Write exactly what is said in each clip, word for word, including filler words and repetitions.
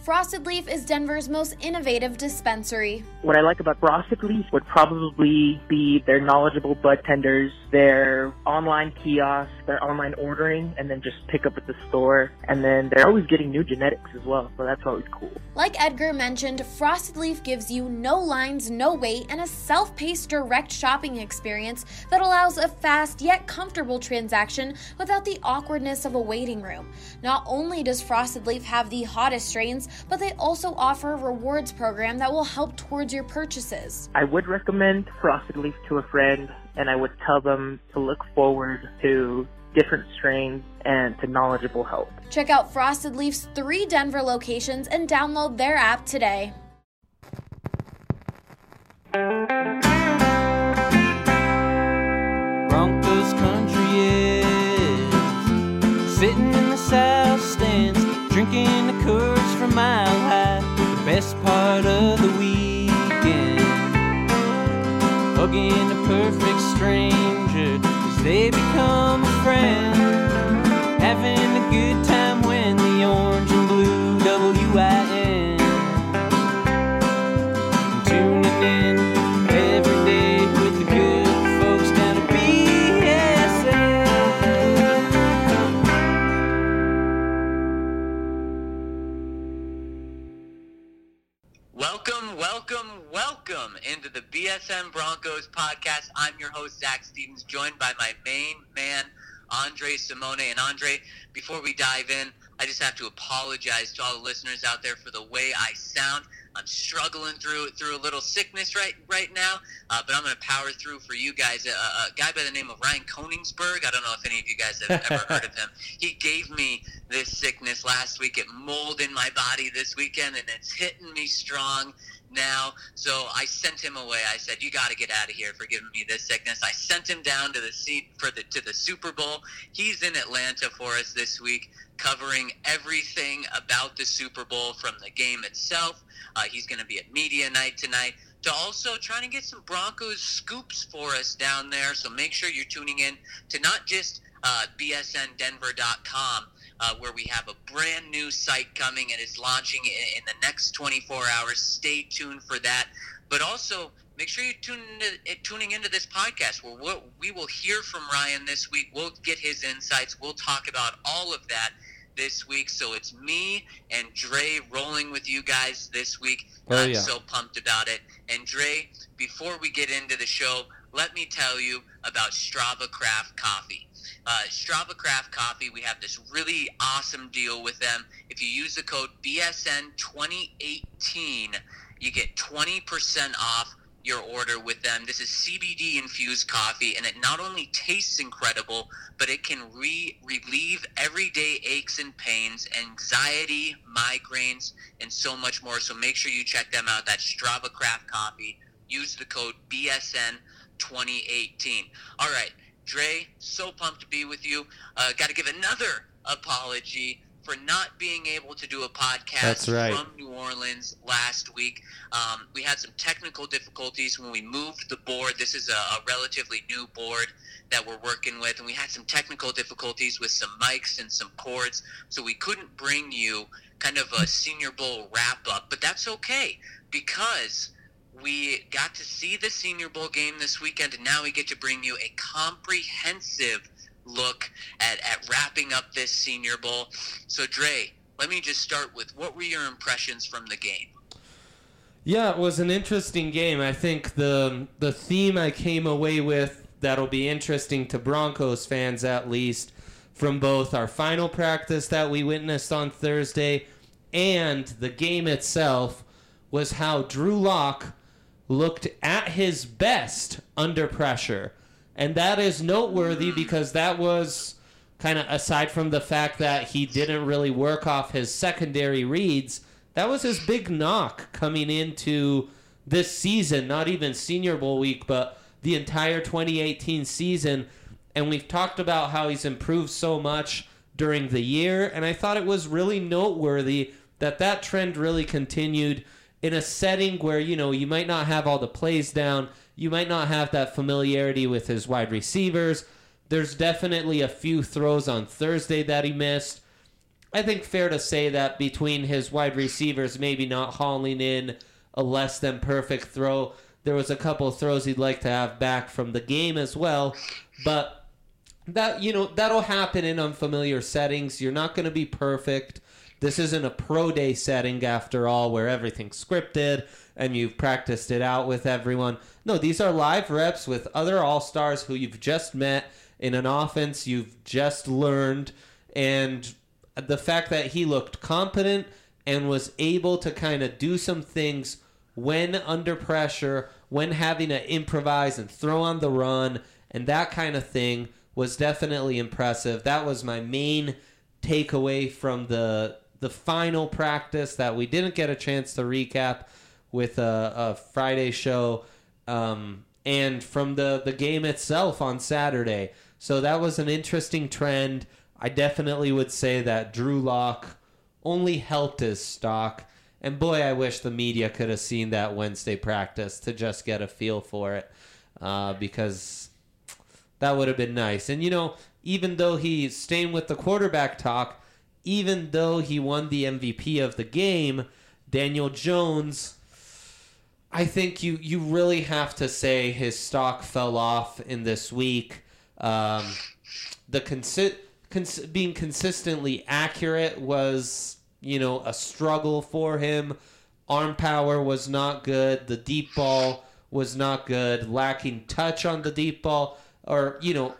Frosted Leaf is Denver's most innovative dispensary. What I like about Frosted Leaf would probably be their knowledgeable bud tenders, their online kiosks, their online ordering, and then just pick up at the store. And then they're always getting new genetics as well, so that's always cool. Like Edgar mentioned, Frosted Leaf gives you no lines, no wait, and a self-paced direct shopping experience that allows a fast yet comfortable transaction without the awkwardness of a waiting room. Not only does Frosted Leaf have the hottest strains, but they also offer a rewards program that will help towards your purchases. I would recommend Frosted Leaf to a friend, and I would tell them to look forward to different strains and to knowledgeable help. Check out Frosted Leaf's three Denver locations and download their app today. Broncos country is sitting in the south stands, drinking the Coors from Mile High. The best part of the weekend, hugging a perfect stranger as they become a friend, having a good time when the orange and blue W I N, tuning in every day with the good folks down at B S N. Welcome, welcome, welcome into the B S N Broncos podcast. I'm your host, Zach Stevens, joined by my main man, Andre Simone. And Andre, before we dive in, I just have to apologize to all the listeners out there for the way I sound. I'm struggling through through a little sickness right right now, uh, but I'm going to power through for you guys. A, a guy by the name of Ryan Koningsberg, I don't know if any of you guys have ever heard of him. He gave me this sickness last week. It molded my body this weekend, and it's hitting me strong now. So I sent him away. I said, you got to get out of here for giving me this sickness. I sent him down to the seat for the to the Super Bowl. He's in Atlanta for us this week, covering everything about the Super Bowl from the game itself. Uh, he's going to be at media night tonight, to also trying to get some Broncos scoops for us down there. So make sure you're tuning in to not just uh, B S N Denver dot com, uh, where we have a brand new site coming and is launching in, in the next twenty-four hours. Stay tuned for that. But also, make sure you're tuning into, tuning into this podcast where we'll, we will hear from Ryan this week. We'll get his insights. We'll talk about all of that this week. So it's me and Dre rolling with you guys this week. Oh, I'm yeah. so pumped about it. And Dre, before we get into the show, let me tell you about Strava Craft Coffee. Uh, Strava Craft Coffee, we have this really awesome deal with them. If you use the code B S N twenty eighteen, you get twenty percent off your order with them. This is C B D infused coffee, and it not only tastes incredible, but it can re- relieve everyday aches and pains, anxiety, migraines, and so much more. So make sure you check them out. That's Strava Craft Coffee. Use the code B S N twenty eighteen. All right, Dre, so pumped to be with you. Uh, got to give another apology for not being able to do a podcast That's right. from New Orleans last week. Um, we had some technical difficulties when we moved the board. This is a, a relatively new board that we're working with, and we had some technical difficulties with some mics and some cords, so we couldn't bring you kind of a Senior Bowl wrap-up, but that's okay, because we got to see the Senior Bowl game this weekend, and now we get to bring you a comprehensive look at, at wrapping up this Senior Bowl. So, Dre, let me just start with, what were your impressions from the game? Yeah, it was an interesting game. I think the the theme I came away with that'll be interesting to Broncos fans, at least, from both our final practice that we witnessed on Thursday and the game itself, was how Drew Lock looked at his best under pressure. And that is noteworthy because that was kind of, aside from the fact that he didn't really work off his secondary reads, that was his big knock coming into this season, not even Senior Bowl week, but the entire twenty eighteen season. And we've talked about how he's improved so much during the year, and I thought it was really noteworthy that that trend really continued in a setting where, you know, you might not have all the plays down, you might not have that familiarity with his wide receivers. There's definitely a few throws on Thursday that he missed. I think fair to say that between his wide receivers maybe not hauling in a less than perfect throw, there was a couple of throws he'd like to have back from the game as well. But that, you know, that'll happen in unfamiliar settings. You're not going to be perfect. This isn't a pro day setting after all, where everything's scripted and you've practiced it out with everyone. No, these are live reps with other all-stars who you've just met in an offense you've just learned. And the fact that he looked competent and was able to kind of do some things when under pressure, when having to improvise and throw on the run, and that kind of thing was definitely impressive. That was my main takeaway from the the final practice that we didn't get a chance to recap with a, a Friday show, um, and from the, the game itself on Saturday. So that was an interesting trend. I definitely would say that Drew Lock only helped his stock. And boy, I wish the media could have seen that Wednesday practice to just get a feel for it, uh, because that would have been nice. And, you know, even though he's staying with the quarterback talk, even though he won the M V P of the game, Daniel Jones, I think you, you really have to say his stock fell off in this week. Um, the consi- cons- being consistently accurate was, you know, a struggle for him. Arm power was not good. The deep ball was not good. Lacking touch on the deep ball, or, you know,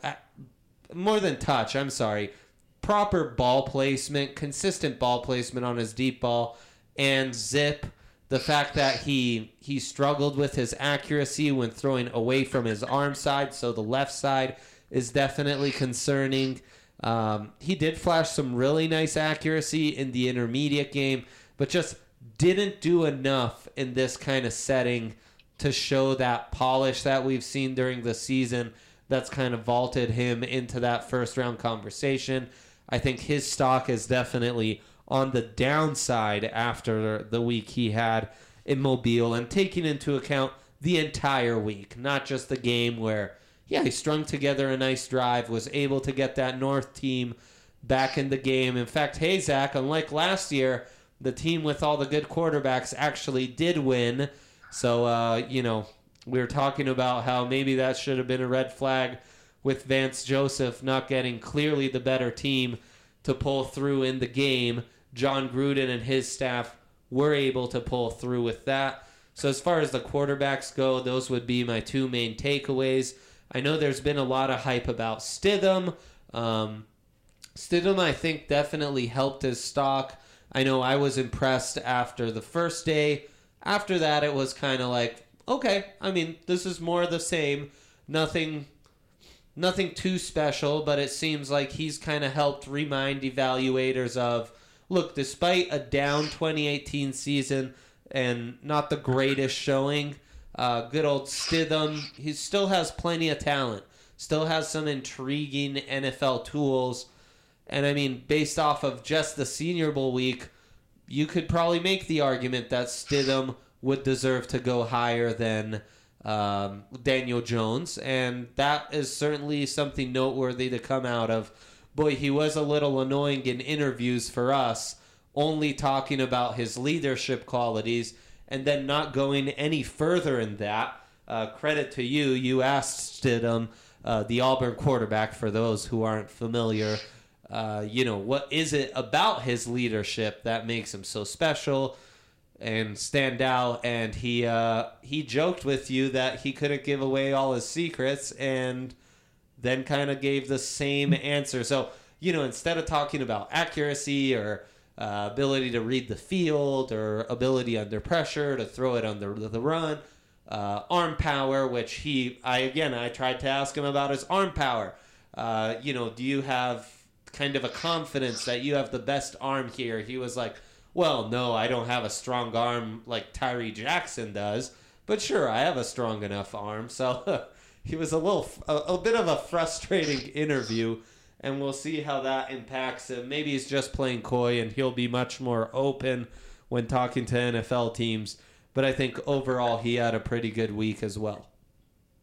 more than touch, I'm sorry. Proper ball placement, consistent ball placement on his deep ball, and zip. The fact that he he struggled with his accuracy when throwing away from his arm side, so the left side is definitely concerning. Um, he did flash some really nice accuracy in the intermediate game, but just didn't do enough in this kind of setting to show that polish that we've seen during the season that's kind of vaulted him into that first round conversation. I think his stock is definitely on the downside after the week he had in Mobile, and taking into account the entire week, not just the game where, yeah, he strung together a nice drive, was able to get that North team back in the game. In fact, hey, Zach, unlike last year, the team with all the good quarterbacks actually did win. So, uh, you know, we were talking about how maybe that should have been a red flag with Vance Joseph not getting clearly the better team to pull through in the game. John Gruden and his staff were able to pull through with that. So as far as the quarterbacks go, those would be my two main takeaways. I know there's been a lot of hype about Stidham. Um, Stidham, I think, definitely helped his stock. I know I was impressed after the first day. After that, it was kind of like, okay, I mean, this is more of the same. Nothing nothing too special, but it seems like he's kind of helped remind evaluators of, look, despite a down twenty eighteen season and not the greatest showing, uh, good old Stidham, he still has plenty of talent, still has some intriguing N F L tools. And I mean, based off of just the Senior Bowl week, you could probably make the argument that Stidham would deserve to go higher than um, Daniel Jones, and that is certainly something noteworthy to come out of. Boy, he was a little annoying in interviews for us, only talking about his leadership qualities and then not going any further in that. Uh, credit to you. You asked Stidham, uh, the Auburn quarterback, for those who aren't familiar, uh, you know, what is it about his leadership that makes him so special and stand out? And he uh, he joked with you that he couldn't give away all his secrets, and then kind of gave the same answer. So, you know, instead of talking about accuracy or uh, ability to read the field or ability under pressure to throw it on the, the run, uh, arm power, which he, I again, I tried to ask him about his arm power. Uh, you know, do you have kind of a confidence that you have the best arm here? He was like, well, no, I don't have a strong arm like Tyree Jackson does, but sure, I have a strong enough arm. So he was a little, a, a bit of a frustrating interview, and we'll see how that impacts him. Maybe he's just playing coy, and he'll be much more open when talking to N F L teams. But I think overall he had a pretty good week as well.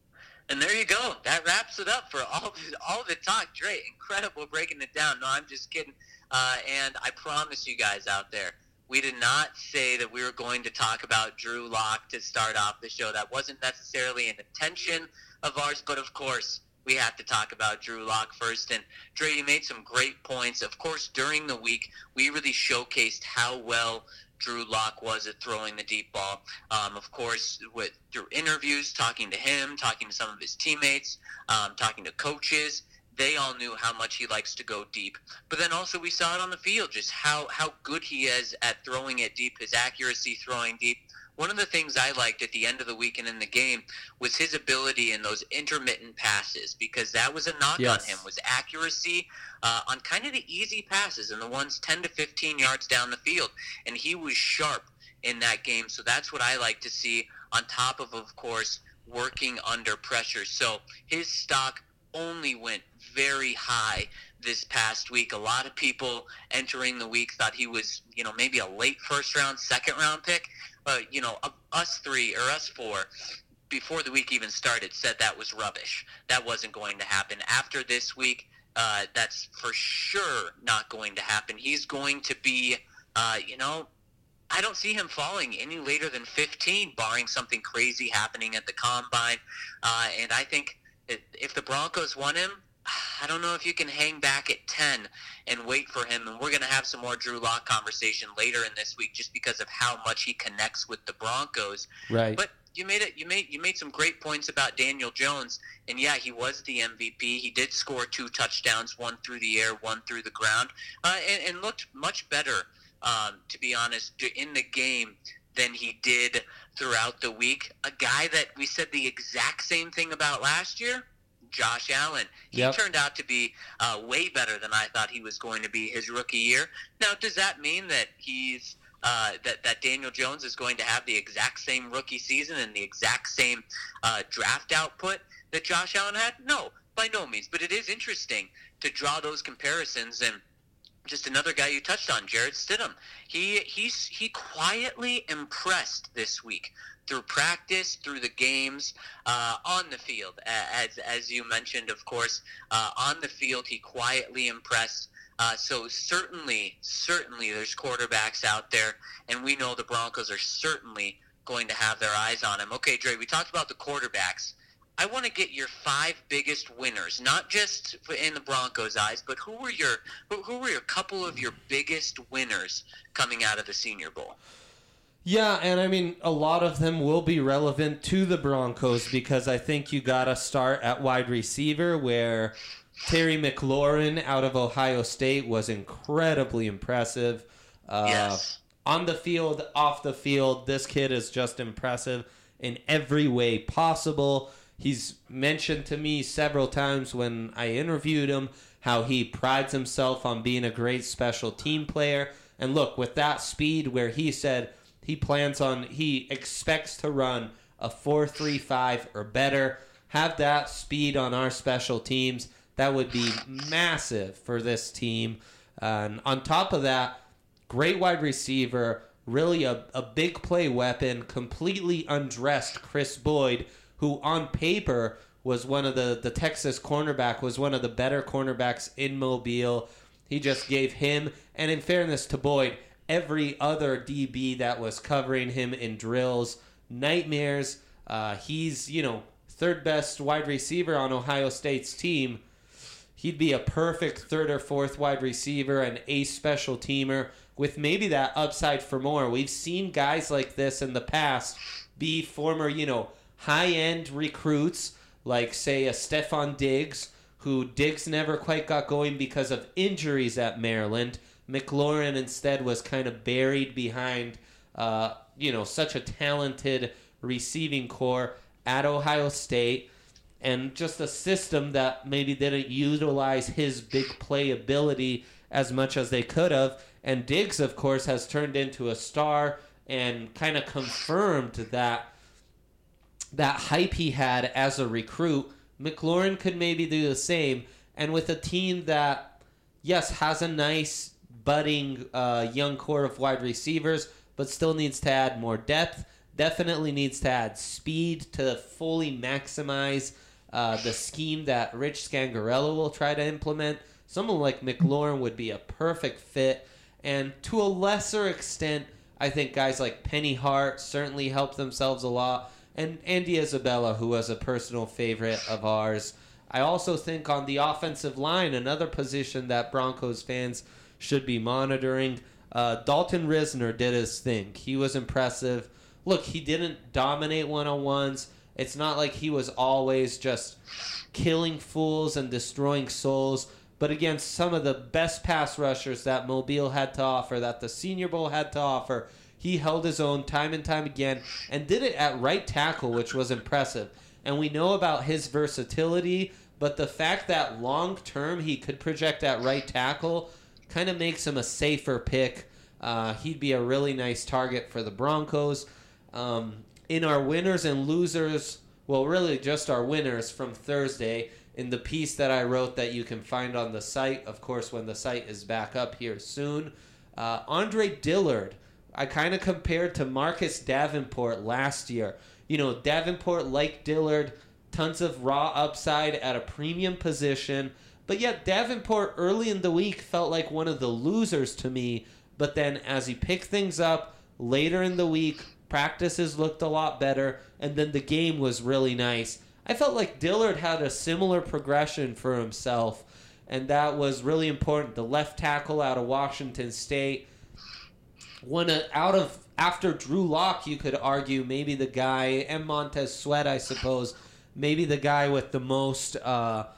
And there you go. That wraps it up for all all the talk. Dre, incredible breaking it down. No, I'm just kidding. Uh, and I promise you guys out there, we did not say that we were going to talk about Drew Lock to start off the show. That wasn't necessarily an intention of ours, but of course, we have to talk about Drew Lock first. And Dre, you made some great points. Of course, during the week, we really showcased how well Drew Lock was at throwing the deep ball. Um, of course, with through interviews, talking to him, talking to some of his teammates, um, talking to coaches, they all knew how much he likes to go deep. But then also we saw it on the field, just how, how good he is at throwing it deep, his accuracy throwing deep. One of the things I liked at the end of the week and in the game was his ability in those intermittent passes, because that was a knock yes. on him, was accuracy uh, on kind of the easy passes and the ones ten to fifteen yards down the field. And he was sharp in that game. So that's what I like to see, on top of, of course, working under pressure. So his stock only went very high this past week. A lot of people entering the week thought he was, you know, maybe a late first round, second round pick. But, you know, us three or us four, before the week even started, said that was rubbish. That wasn't going to happen. After this week, uh, that's for sure not going to happen. He's going to be, uh, you know, I don't see him falling any later than fifteen, barring something crazy happening at the combine. Uh, and I think if the Broncos want him, I don't know if you can hang back at ten and wait for him. And we're going to have some more Drew Lock conversation later in this week, just because of how much he connects with the Broncos. Right. But you made it. You made you made some great points about Daniel Jones, and yeah, he was the M V P. He did score two touchdowns, one through the air, one through the ground, uh, and, and looked much better, um, to be honest, in the game than he did throughout the week. A guy that we said the exact same thing about last year, Josh Allen. He yep. turned out to be uh, way better than I thought he was going to be his rookie year. Now, does that mean that he's uh, that that Daniel Jones is going to have the exact same rookie season and the exact same uh, draft output that Josh Allen had? No, by no means. But it is interesting to draw those comparisons. And just another guy you touched on, Jarrett Stidham. He he's he quietly impressed this week through practice, through the games, uh, on the field. As as you mentioned, of course, uh, on the field he quietly impressed. Uh, so certainly, certainly there's quarterbacks out there, and we know the Broncos are certainly going to have their eyes on him. Okay, Dre, we talked about the quarterbacks. I want to get your five biggest winners, not just in the Broncos' eyes, but who were your who, who were your couple of your biggest winners coming out of the Senior Bowl? Yeah, and I mean, a lot of them will be relevant to the Broncos, because I think you got to start at wide receiver, where Terry McLaurin out of Ohio State was incredibly impressive. Uh, yes. On the field, off the field, this kid is just impressive in every way possible. He's mentioned to me several times when I interviewed him how he prides himself on being a great special team player. And look, with that speed, where he said he plans on, he expects to run a four three five or better, have that speed on our special teams, that would be massive for this team. And on top of that, great wide receiver, really a, a big play weapon, completely undressed Chris Boyd, who on paper was one of the, the Texas cornerback, was one of the better cornerbacks in Mobile. He just gave him, and in fairness to Boyd, every other D B that was covering him in drills, nightmares. Uh, he's, you know, third best wide receiver on Ohio State's team. He'd be a perfect third or fourth wide receiver, an ace special teamer with maybe that upside for more. We've seen guys like this in the past be former, you know, high-end recruits, like, say, a Stephon Diggs, who Diggs never quite got going because of injuries at Maryland. McLaurin instead was kind of buried behind, uh, you know, such a talented receiving core at Ohio State, and just a system that maybe didn't utilize his big play ability as much as they could have. And Diggs, of course, has turned into a star and kind of confirmed that that hype he had as a recruit. McLaurin could maybe do the same. And with a team that, yes, has a nice budding uh, young core of wide receivers, but still needs to add more depth, definitely needs to add speed to fully maximize uh, the scheme that Rich Scangarello will try to implement. Someone like McLaurin would be a perfect fit. And to a lesser extent, I think guys like Penny Hart certainly help themselves a lot. And Andy Isabella, who was a personal favorite of ours. I also think on the offensive line, another position that Broncos fans should be monitoring, uh, Dalton Risner did his thing. He was impressive. Look, he didn't dominate one-on-ones. It's not like he was always just killing fools and destroying souls. But against some of the best pass rushers that Mobile had to offer, that the Senior Bowl had to offer, he held his own time and time again and did it at right tackle, which was impressive. And we know about his versatility, but the fact that long-term he could project at right tackle kind of makes him a safer pick. Uh, he'd be a really nice target for the Broncos. Um, in our winners and losers, well, really just our winners from Thursday, in the piece that I wrote that you can find on the site, of course, when the site is back up here soon, uh, Andre Dillard, I kind of compared to Marcus Davenport last year. You know, Davenport, like Dillard, tons of raw upside at a premium position, but yet Davenport early in the week felt like one of the losers to me, but then as he picked things up later in the week, practices looked a lot better, and then the game was really nice. I felt like Dillard had a similar progression for himself, and that was really important. The left tackle out of Washington State, one out of after Drew Lock, you could argue maybe the guy, and Montez Sweat, I suppose, maybe the guy with the most uh,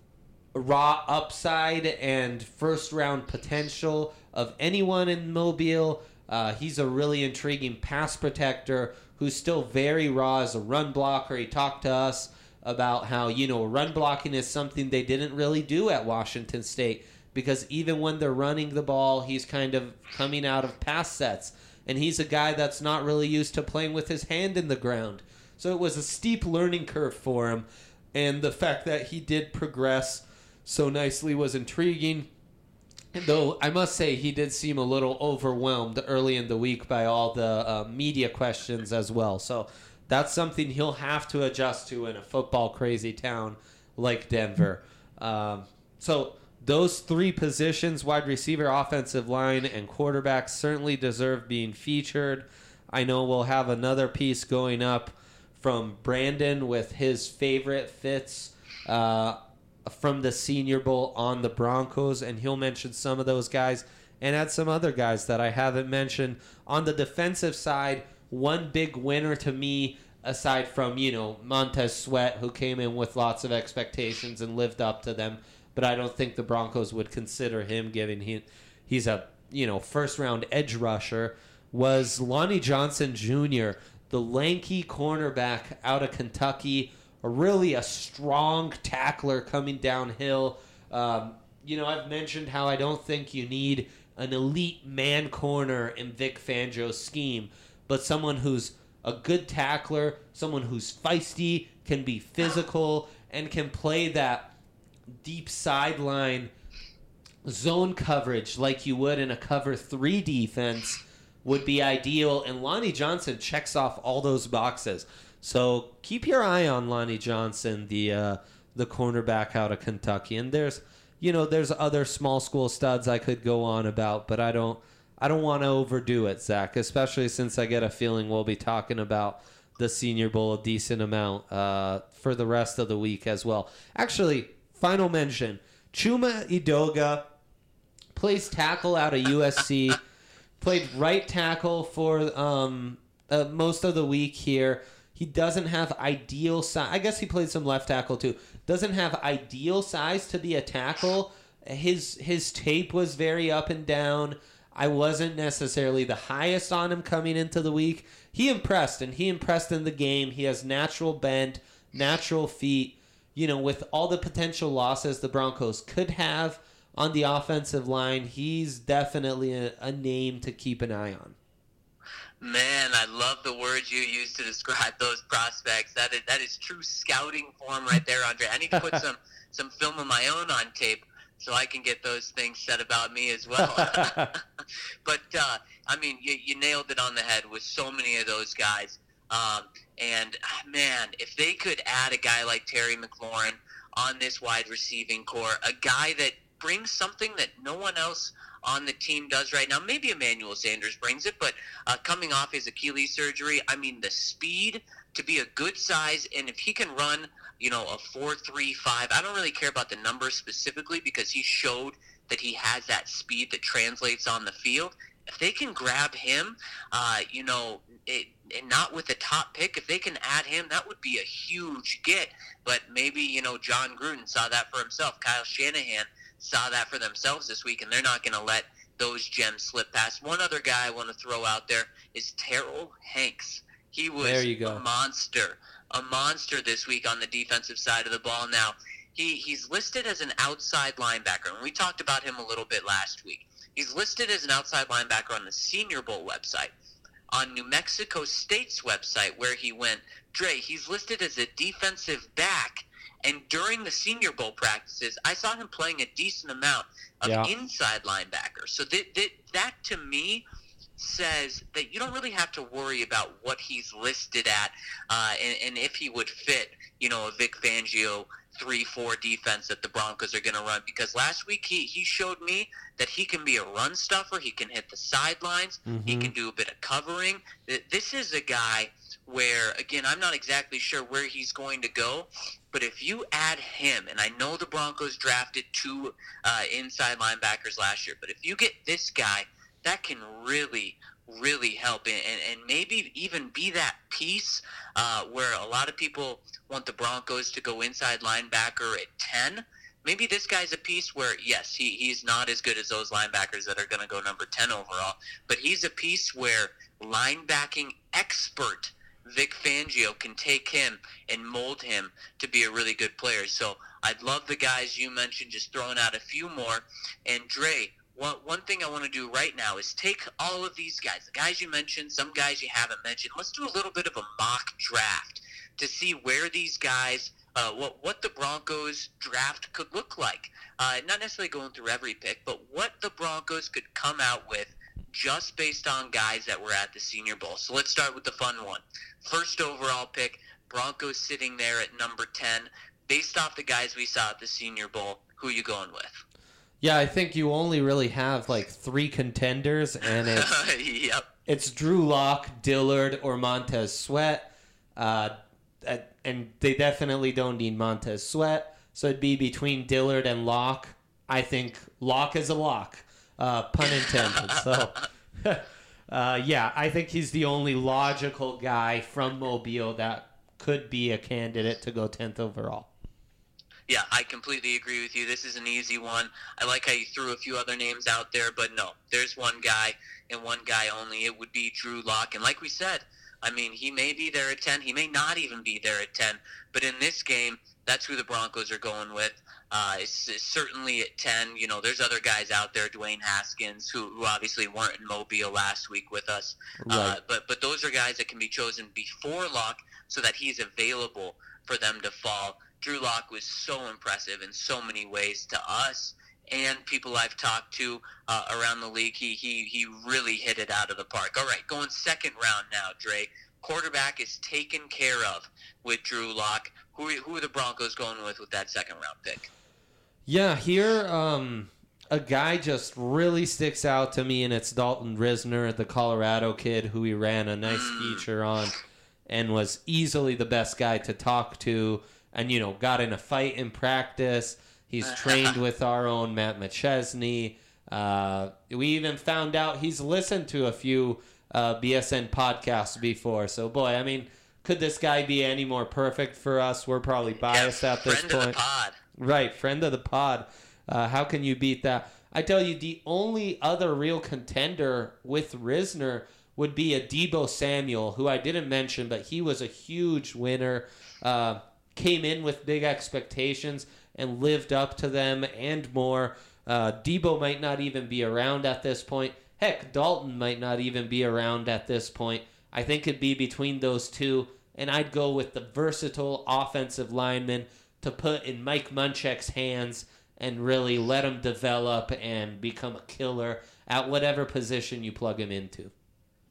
raw upside and first-round potential of anyone in Mobile. Uh, he's a really intriguing pass protector who's still very raw as a run blocker. He talked to us about how, you know, run blocking is something they didn't really do at Washington State because even when they're running the ball, he's kind of coming out of pass sets. And he's a guy that's not really used to playing with his hand in the ground. So it was a steep learning curve for him. And the fact that he did progress so nicely was intriguing. Though I must say he did seem a little overwhelmed early in the week by all the uh, media questions as well. So that's something he'll have to adjust to in a football-crazy town like Denver. Um, so those three positions, wide receiver, offensive line, and quarterback, certainly deserve being featured. I know we'll have another piece going up from Brandon with his favorite fits uh, from the Senior Bowl on the Broncos, and he'll mention some of those guys and add some other guys that I haven't mentioned. On the defensive side, one big winner to me, aside from, you know, Montez Sweat, who came in with lots of expectations and lived up to them, but I don't think the Broncos would consider him, given he, he's a, you know, first-round edge rusher, was Lonnie Johnson Junior, the lanky cornerback out of Kentucky, really a strong tackler coming downhill. Um, you know, I've mentioned how I don't think you need an elite man corner in Vic Fangio's scheme, but someone who's a good tackler, someone who's feisty, can be physical, and can play that deep sideline zone coverage like you would in a cover three defense would be ideal. And Lonnie Johnson checks off all those boxes. So keep your eye on Lonnie Johnson, the uh, the cornerback out of Kentucky. And there's, you know, there's other small school studs I could go on about, but I don't I don't want to overdo it, Zach, especially since I get a feeling we'll be talking about the Senior Bowl a decent amount uh, for the rest of the week as well. Actually, final mention, Chuma Edoga plays tackle out of U S C, played right tackle for um, uh, most of the week here. He doesn't have ideal size. I guess he played some left tackle too. Doesn't have ideal size to be a tackle. His his tape was very up and down. I wasn't necessarily the highest on him coming into the week. He impressed, and he impressed in the game. He has natural bend, natural feet. You know, with all the potential losses the Broncos could have on the offensive line, he's definitely a, a name to keep an eye on. Man, I love the words you use to describe those prospects. That is that is true scouting form right there, Andre. I need to put some, some film of my own on tape so I can get those things said about me as well. But, uh, I mean, you, you nailed it on the head with so many of those guys. Um, and, man, if they could add a guy like Terry McLaurin on this wide receiving core, a guy that brings something that no one else on the team does right now. Maybe Emmanuel Sanders brings it, but uh, coming off his Achilles surgery, I mean, the speed to be a good size, and if he can run, you know, a four three five, I don't really care about the numbers specifically because he showed that he has that speed that translates on the field. If they can grab him, uh, you know, it, and not with the top pick, if they can add him, that would be a huge get. But maybe, you know, John Gruden saw that for himself. Kyle Shanahan saw that for themselves this week, and they're not going to let those gems slip past. One other guy I want to throw out there is Terrell Hanks. He was there you go. a monster, a monster this week on the defensive side of the ball. Now, he, he's listed as an outside linebacker, and we talked about him a little bit last week. He's listed as an outside linebacker on the Senior Bowl website. On New Mexico State's website, where he went, Dre, he's listed as a defensive back. And during the Senior Bowl practices, I saw him playing a decent amount of yeah. inside linebacker. So that, that, that, to me, says that you don't really have to worry about what he's listed at uh, and, and if he would fit, you know, a Vic Fangio three four defense that the Broncos are going to run. Because last week he, he showed me that he can be a run stuffer. He can hit the sidelines. Mm-hmm. He can do a bit of covering. This is a guy where, again, I'm not exactly sure where he's going to go, but if you add him, and I know the Broncos drafted two uh, inside linebackers last year, but if you get this guy, that can really, really help and, and maybe even be that piece uh, where a lot of people want the Broncos to go inside linebacker at ten. Maybe this guy's a piece where, yes, he, he's not as good as those linebackers that are going to go number ten overall, but he's a piece where linebacking expert Vic Fangio can take him and mold him to be a really good player. So I'd love the guys you mentioned, just throwing out a few more. And Dre, one, one thing I want to do right now is take all of these guys, the guys you mentioned, some guys you haven't mentioned. Let's do a little bit of a mock draft to see where these guys, uh, what what the Broncos draft could look like. Uh, not necessarily going through every pick, but what the Broncos could come out with just based on guys that were at the Senior Bowl. So let's start with the fun one. First overall pick, Broncos sitting there at number ten. Based off the guys we saw at the Senior Bowl, who are you going with? Yeah, I think you only really have like three contenders, and it's yep. it's Drew Lock, Dillard, or Montez Sweat. Uh, and they definitely don't need Montez Sweat, so it'd be between Dillard and Lock. I think Lock is a lock, uh, pun intended. So, uh, yeah, I think he's the only logical guy from Mobile that could be a candidate to go tenth overall. Yeah, I completely agree with you. This is an easy one. I like how you threw a few other names out there, but no, there's one guy and one guy only. It would be Drew Lock. And like we said, I mean, he may be there at ten. He may not even be there at ten. But in this game, that's who the Broncos are going with. Uh, it's, it's certainly at ten. You know, there's other guys out there, Dwayne Haskins, who, who obviously weren't in Mobile last week with us. Right. Uh, but, but those are guys that can be chosen before Lock so that he's available for them to fall. Drew Lock was so impressive in so many ways to us and people I've talked to uh, around the league. He, he he really hit it out of the park. All right, going second round now, Dre. Quarterback is taken care of with Drew Lock. Who, who are the Broncos going with with that second round pick? Yeah, here um, a guy just really sticks out to me, and it's Dalton Risner, the Colorado kid who we ran a nice mm. feature on and was easily the best guy to talk to. And, you know, got in a fight in practice. He's trained with our own Matt McChesney. Uh, we even found out he's listened to a few uh, B S N podcasts before. So, boy, I mean, could this guy be any more perfect for us? We're probably biased yeah, at this friend point. Friend of the pod. Right, friend of the pod. Uh, how can you beat that? I tell you, the only other real contender with Risner would be a Deebo Samuel, who I didn't mention, but he was a huge winner. Uh Came in with big expectations and lived up to them and more. Uh, Deebo might not even be around at this point. Heck, Dalton might not even be around at this point. I think it'd be between those two, and I'd go with the versatile offensive lineman to put in Mike Munchak's hands and really let him develop and become a killer at whatever position you plug him into.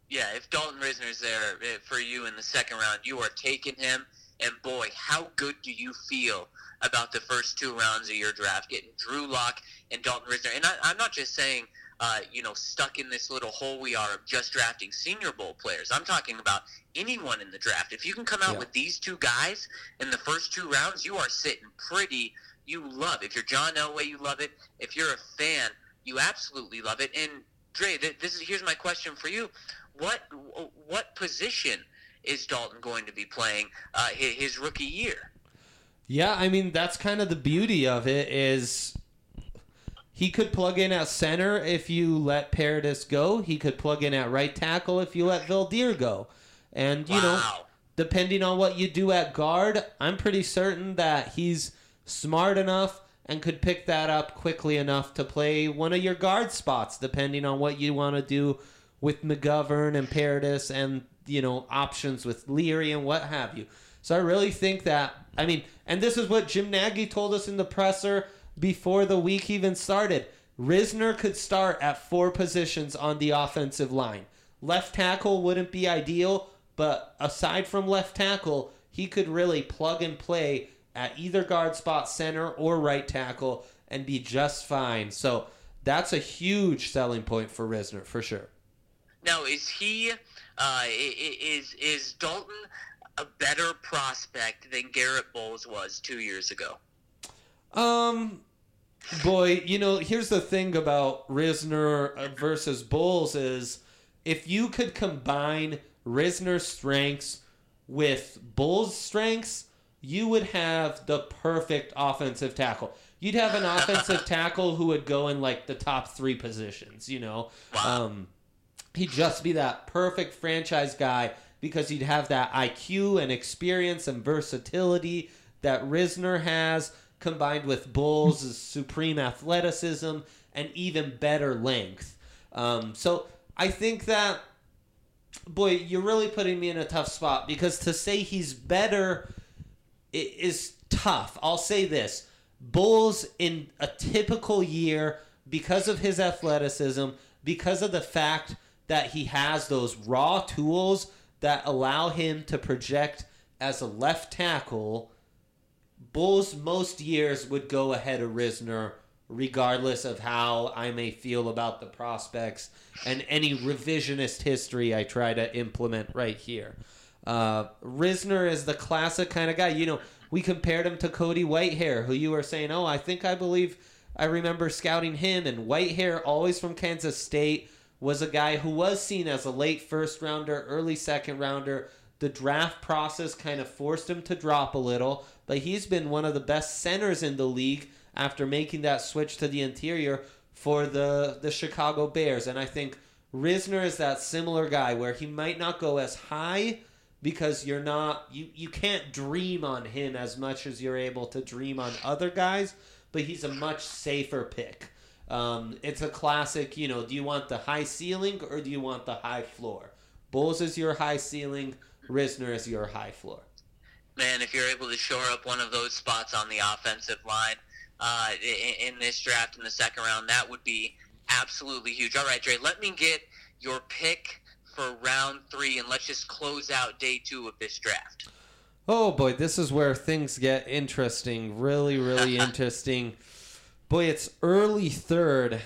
Yeah, if Dalton Risner's there eh, for you in the second round, you are taking him. And boy, how good do you feel about the first two rounds of your draft, getting Drew Lock and Dalton Risner? And I, I'm not just saying, uh, you know, stuck in this little hole we are of just drafting Senior Bowl players. I'm talking about anyone in the draft. If you can come out Yeah. with these two guys in the first two rounds, you are sitting pretty. You love it. If you're John Elway, you love it. If you're a fan, you absolutely love it. And Dre, th- this is here's my question for you: What what position is Dalton going to be playing uh, his, his rookie year? Yeah, I mean, that's kind of the beauty of it is he could plug in at center if you let Paradis go. He could plug in at right tackle if you let Valdir go. And, you know, Wow. depending on what you do at guard, I'm pretty certain that he's smart enough and could pick that up quickly enough to play one of your guard spots, depending on what you want to do with McGovern and Paradis and, you know, options with Leary and what have you. So I really think that, I mean, and this is what Jim Nagy told us in the presser before the week even started. Risner could start at four positions on the offensive line. Left tackle wouldn't be ideal, but aside from left tackle, he could really plug and play at either guard spot, center or right tackle, and be just fine. So that's a huge selling point for Risner, for sure. Now, is he, uh, i- i- is is Dalton a better prospect than Garrett Bowles was two years ago? Um, boy, you know, here's the thing about Risner versus Bowles is if you could combine Risner's strengths with Bowles' strengths, you would have the perfect offensive tackle. You'd have an offensive tackle who would go in like the top three positions, you know. Wow. Um, he'd just be that perfect franchise guy because he'd have that I Q and experience and versatility that Risner has, combined with Bowles' supreme athleticism and even better length. Um, so I think that, boy, you're really putting me in a tough spot because to say he's better i- is tough. I'll say this. Bowles, in a typical year, because of his athleticism, because of the fact that he has those raw tools that allow him to project as a left tackle, Bowles most years would go ahead of Risner regardless of how I may feel about the prospects and any revisionist history I try to implement right here. Uh, Risner is the classic kind of guy. You know, we compared him to Cody Whitehair, who you were saying, oh, I think I believe I remember scouting him. And Whitehair, always from Kansas State, was a guy who was seen as a late first rounder, early second rounder. The draft process kind of forced him to drop a little, but he's been one of the best centers in the league after making that switch to the interior for the, the Chicago Bears. And I think Risner is that similar guy where he might not go as high because you're not you, you can't dream on him as much as you're able to dream on other guys, but he's a much safer pick. Um, it's a classic, you know, do you want the high ceiling or do you want the high floor? Bowles is your high ceiling, Risner is your high floor. Man, if you're able to shore up one of those spots on the offensive line uh, in, in this draft in the second round, that would be absolutely huge. All right, Dre, let me get your pick for round three, and let's just close out day two of this draft. Oh, boy, this is where things get interesting. Really, really interesting. Boy, it's early third,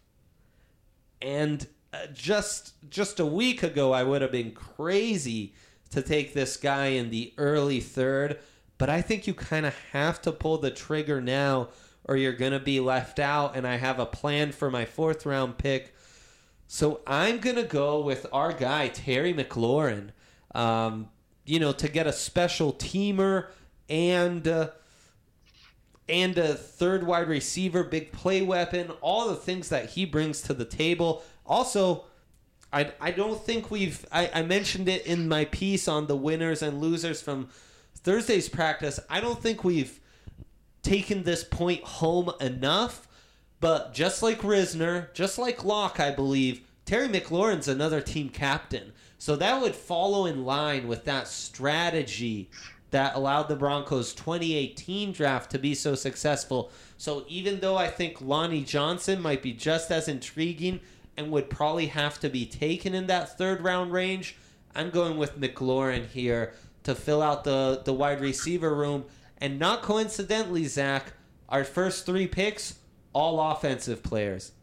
and uh, just just a week ago, I would have been crazy to take this guy in the early third, but I think you kind of have to pull the trigger now or you're going to be left out, and I have a plan for my fourth round pick. So I'm going to go with our guy, Terry McLaurin, um, you know, to get a special teamer and uh, and a third wide receiver, big play weapon, all the things that he brings to the table. Also, I, I don't think we've... I, I mentioned it in my piece on the winners and losers from Thursday's practice. I don't think we've taken this point home enough, but just like Risner, just like Locke, I believe, Terry McLaurin's another team captain. So that would follow in line with that strategy that allowed the Broncos' twenty eighteen draft to be so successful. So even though I think Lonnie Johnson might be just as intriguing and would probably have to be taken in that third round range, I'm going with McLaurin here to fill out the, the wide receiver room. And not coincidentally, Zach, our first three picks, all offensive players.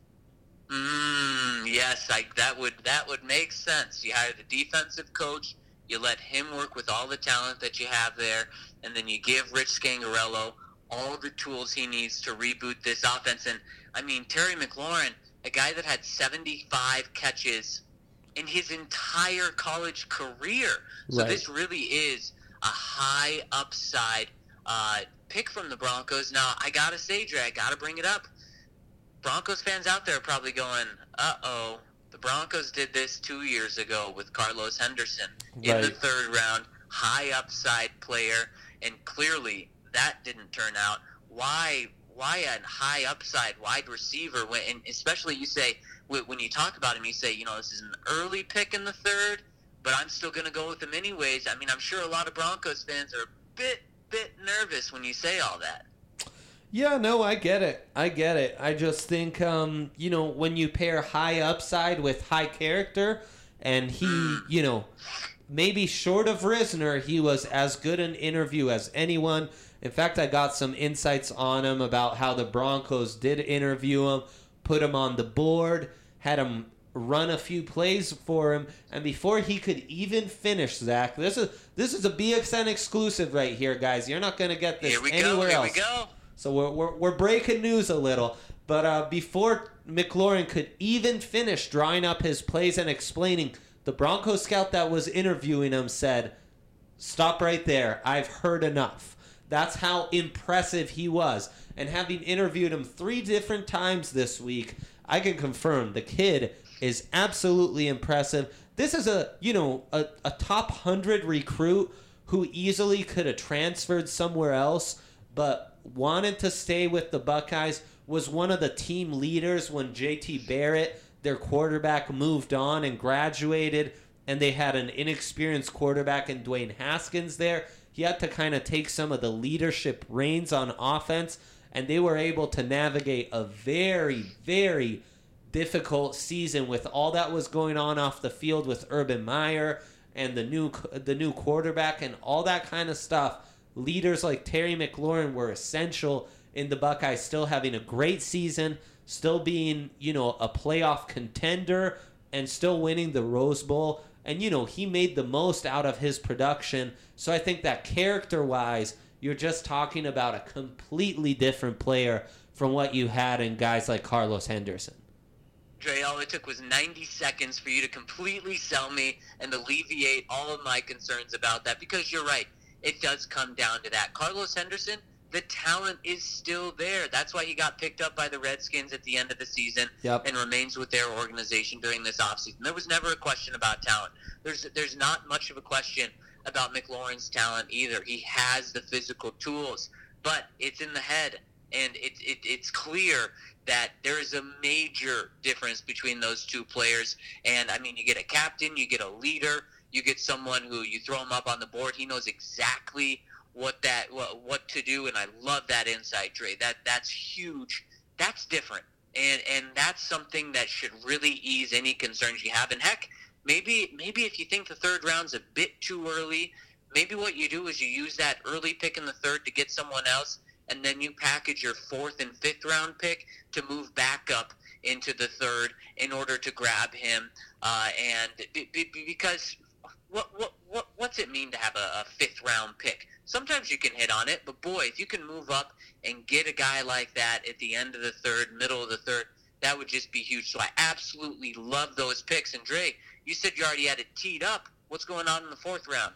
Mm, yes, I, that would that would make sense. You hire the defensive coach, you let him work with all the talent that you have there, and then you give Rich Scangarello all the tools he needs to reboot this offense. And, I mean, Terry McLaurin, a guy that had seventy-five catches in his entire college career. So Right. this really is a high upside uh, pick from the Broncos. Now, I got to say, Dre, I got to bring it up. Broncos fans out there are probably going, uh-oh, the Broncos did this two years ago with Carlos Henderson in Right. the third round, high upside player, and clearly that didn't turn out. Why why a high upside wide receiver, when, and especially you say, when you talk about him, you say, you know, this is an early pick in the third, but I'm still going to go with him anyways. I mean, I'm sure a lot of Broncos fans are a bit, bit nervous when you say all that. Yeah, no, I get it. I get it. I just think, um, you know, when you pair high upside with high character, and he, you know, maybe short of Risner, he was as good an interview as anyone. In fact, I got some insights on him about how the Broncos did interview him, put him on the board, had him run a few plays for him, and before he could even finish, Zach, this is this is a B X N exclusive right here, guys. You're not going to get this Here we anywhere go, here else. we go. So we're, we're, we're breaking news a little. But uh, before McLaurin could even finish drawing up his plays and explaining, the Broncos scout that was interviewing him said, "Stop right there. I've heard enough." That's how impressive he was. And having interviewed him three different times this week, I can confirm the kid is absolutely impressive. This is a, you know, a, a top one hundred recruit who easily could have transferred somewhere else, but wanted to stay with the Buckeyes, was one of the team leaders when J T Barrett, their quarterback, moved on and graduated, and they had an inexperienced quarterback in Dwayne Haskins there. He had to kind of take some of the leadership reins on offense, and they were able to navigate a very, very difficult season with all that was going on off the field with Urban Meyer and the new the new quarterback and all that kind of stuff. Leaders like Terry McLaurin were essential in the Buckeyes still having a great season, still being, you know, a playoff contender, and still winning the Rose Bowl. And, you know, he made the most out of his production. So I think that character-wise, you're just talking about a completely different player from what you had in guys like Carlos Henderson. Dre, all it took was ninety seconds for you to completely sell me and alleviate all of my concerns about that, because you're right. It does come down to that. Carlos Henderson, the talent is still there. That's why he got picked up by the Redskins at the end of the season Yep. and remains with their organization during this offseason. There was never a question about talent. There's there's not much of a question about McLaurin's talent either. He has the physical tools, but it's in the head, and it, it it's clear that there is a major difference between those two players. And, I mean, you get a captain, you get a leader, you get someone who you throw him up on the board, he knows exactly what that what, what to do, and I love that insight, Dre. That that's huge. That's different, and and that's something that should really ease any concerns you have. And heck, maybe maybe if you think the third round's a bit too early, maybe what you do is you use that early pick in the third to get someone else, and then you package your fourth and fifth round pick to move back up into the third in order to grab him. Uh, and b- b- because what what what what's it mean to have a, a fifth round pick? Sometimes you can hit on it, but boy, if you can move up and get a guy like that at the end of the third, middle of the third, that would just be huge. So I absolutely love those picks. And Dre, you said you already had it teed up. What's going on in the fourth round?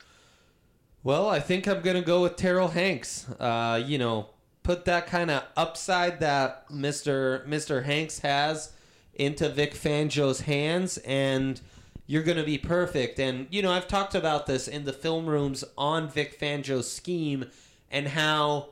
Well, I think I'm going to go with Terrell Hanks. Uh, you know, put that kind of upside that Mister Mister Hanks has into Vic Fangio's hands, and you're going to be perfect. And, you know, I've talked about this in the film rooms on Vic Fangio's scheme and how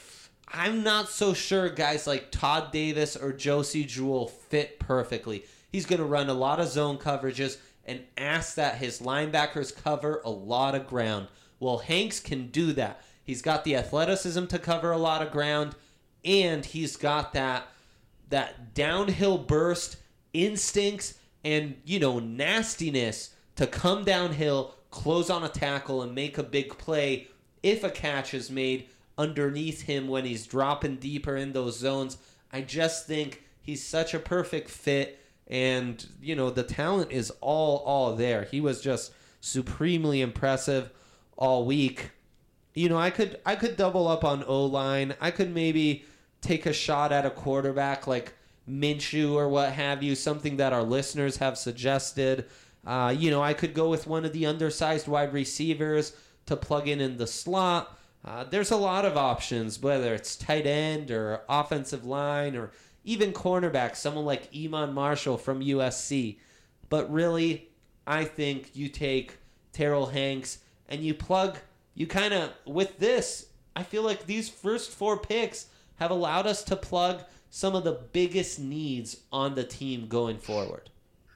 I'm not so sure guys like Todd Davis or Josie Jewell fit perfectly. He's going to run a lot of zone coverages and ask that his linebackers cover a lot of ground. Well, Hanks can do that. He's got the athleticism to cover a lot of ground, and he's got that that downhill burst instincts and, you know, nastiness to come downhill, close on a tackle, and make a big play if a catch is made underneath him when he's dropping deeper in those zones. I just think he's such a perfect fit, and, you know, the talent is all, all there. He was just supremely impressive all week. You know, I could I could double up on O-line. I could maybe take a shot at a quarterback like Minshew or what have you, something that our listeners have suggested. Uh, you know, I could go with one of the undersized wide receivers to plug in in the slot. Uh, there's a lot of options, whether it's tight end or offensive line or even cornerback, someone like Iman Marshall from U S C. But really, I think you take Terrell Hanks and you plug, you kind of, with this, I feel like these first four picks have allowed us to plug some of the biggest needs on the team going forward.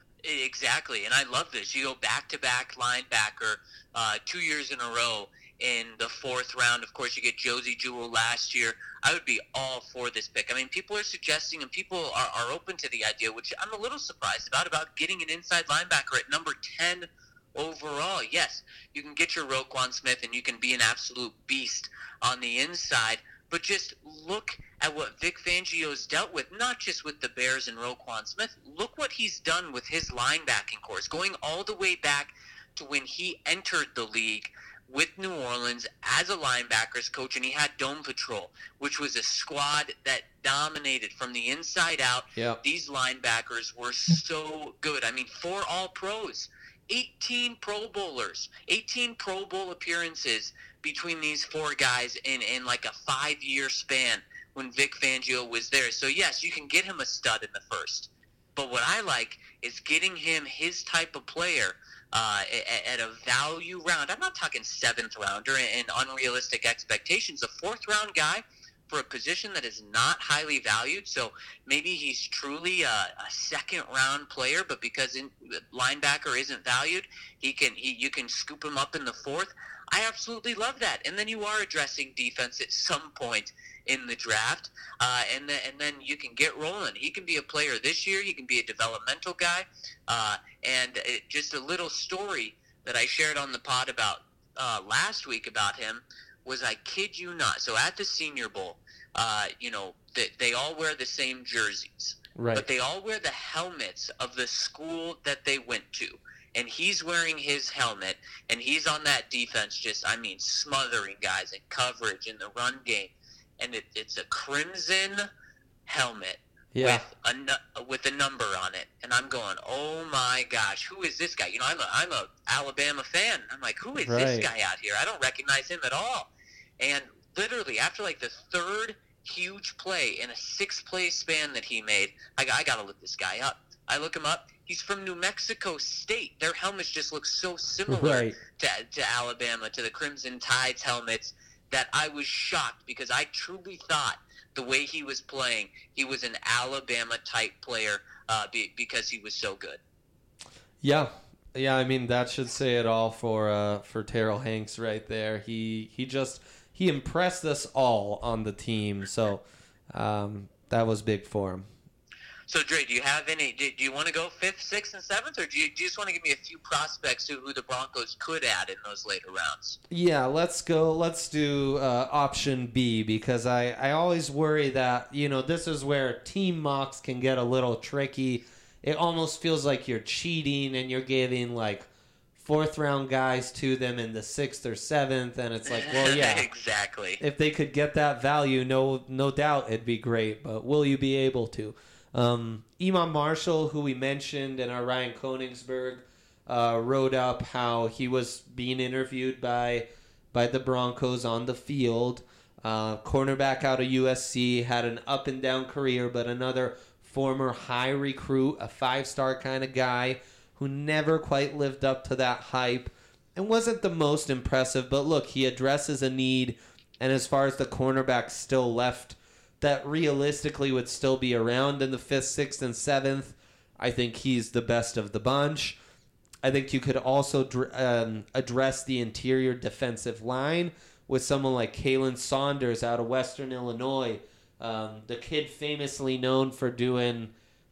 Exactly, and I love this. You go back-to-back linebacker uh, two years in a row in the fourth round. Of course, you get Josie Jewell last year. I would be all for this pick. I mean, people are suggesting, and people are, are open to the idea, which I'm a little surprised about, about getting an inside linebacker at number ten overall. Yes, you can get your Roquan Smith, and you can be an absolute beast on the inside, but just look at what Vic Fangio's dealt with, not just with the Bears and Roquan Smith. Look what he's done with his linebacking course, going all the way back to when he entered the league with New Orleans as a linebackers coach, and he had Dome Patrol, which was a squad that dominated from the inside out. Yep. These linebackers were so good. I mean, four All-Pros, eighteen Pro Bowlers, eighteen Pro Bowl appearances between these four guys in, in like a five-year span when Vic Fangio was there. So, yes, you can get him a stud in the first. But what I like is getting him his type of player uh, at, at a value round. I'm not talking seventh rounder and unrealistic expectations. A fourth-round guy for a position that is not highly valued. So maybe he's truly a, a second-round player, but because in, linebacker isn't valued, he can he, you can scoop him up in the fourth. I absolutely love that. And then you are addressing defense at some point in the draft, uh, and, the, and then you can get rolling. He can be a player this year. He can be a developmental guy. Uh, and it, just a little story that I shared on the pod about uh, last week about him was, I kid you not, so at the Senior Bowl, uh, you know, they, they all wear the same jerseys. Right. But they all wear the helmets of the school that they went to. And he's wearing his helmet, and he's on that defense just, I mean, smothering guys in coverage in the run game. And it, it's a crimson helmet yeah. with a with a number on it. And I'm going, oh my gosh, who is this guy? You know, I'm a I'm a Alabama fan. I'm like, who is right. this guy out here? I don't recognize him at all. And literally, after like the third huge play in a six-play span that he made, I, I got to look this guy up. I look him up. He's from New Mexico State. Their helmets just look so similar right. to, to Alabama, to the Crimson Tide's helmets, that I was shocked, because I truly thought the way he was playing, he was an Alabama-type player uh, be, because he was so good. Yeah. Yeah, I mean, that should say it all for uh, for Terrell Hanks right there. He he just he impressed us all on the team, so um, that was big for him. So, Dre, do you have any? Do, do you want to go fifth, sixth, and seventh, or do you, do you just want to give me a few prospects who, who the Broncos could add in those later rounds? Yeah, let's go. Let's do uh, option B, because I, I always worry that, you know, this is where team mocks can get a little tricky. It almost feels like you're cheating and you're giving like fourth round guys to them in the sixth or seventh, and it's like, well, yeah, exactly. If they could get that value, no no doubt it'd be great. But will you be able to? Um, Iman Marshall, who we mentioned, and our Ryan Koenigsberg uh, wrote up how he was being interviewed by by the Broncos on the field. Uh, cornerback out of U S C, had an up and down career, but another former high recruit, a five-star kind of guy who never quite lived up to that hype and wasn't the most impressive. But look, he addresses a need, and as far as the cornerbacks still left that realistically would still be around in the fifth, sixth, and seventh, I think he's the best of the bunch. I think you could also um, address the interior defensive line with someone like Kalen Saunders out of Western Illinois. Um, the kid famously known for doing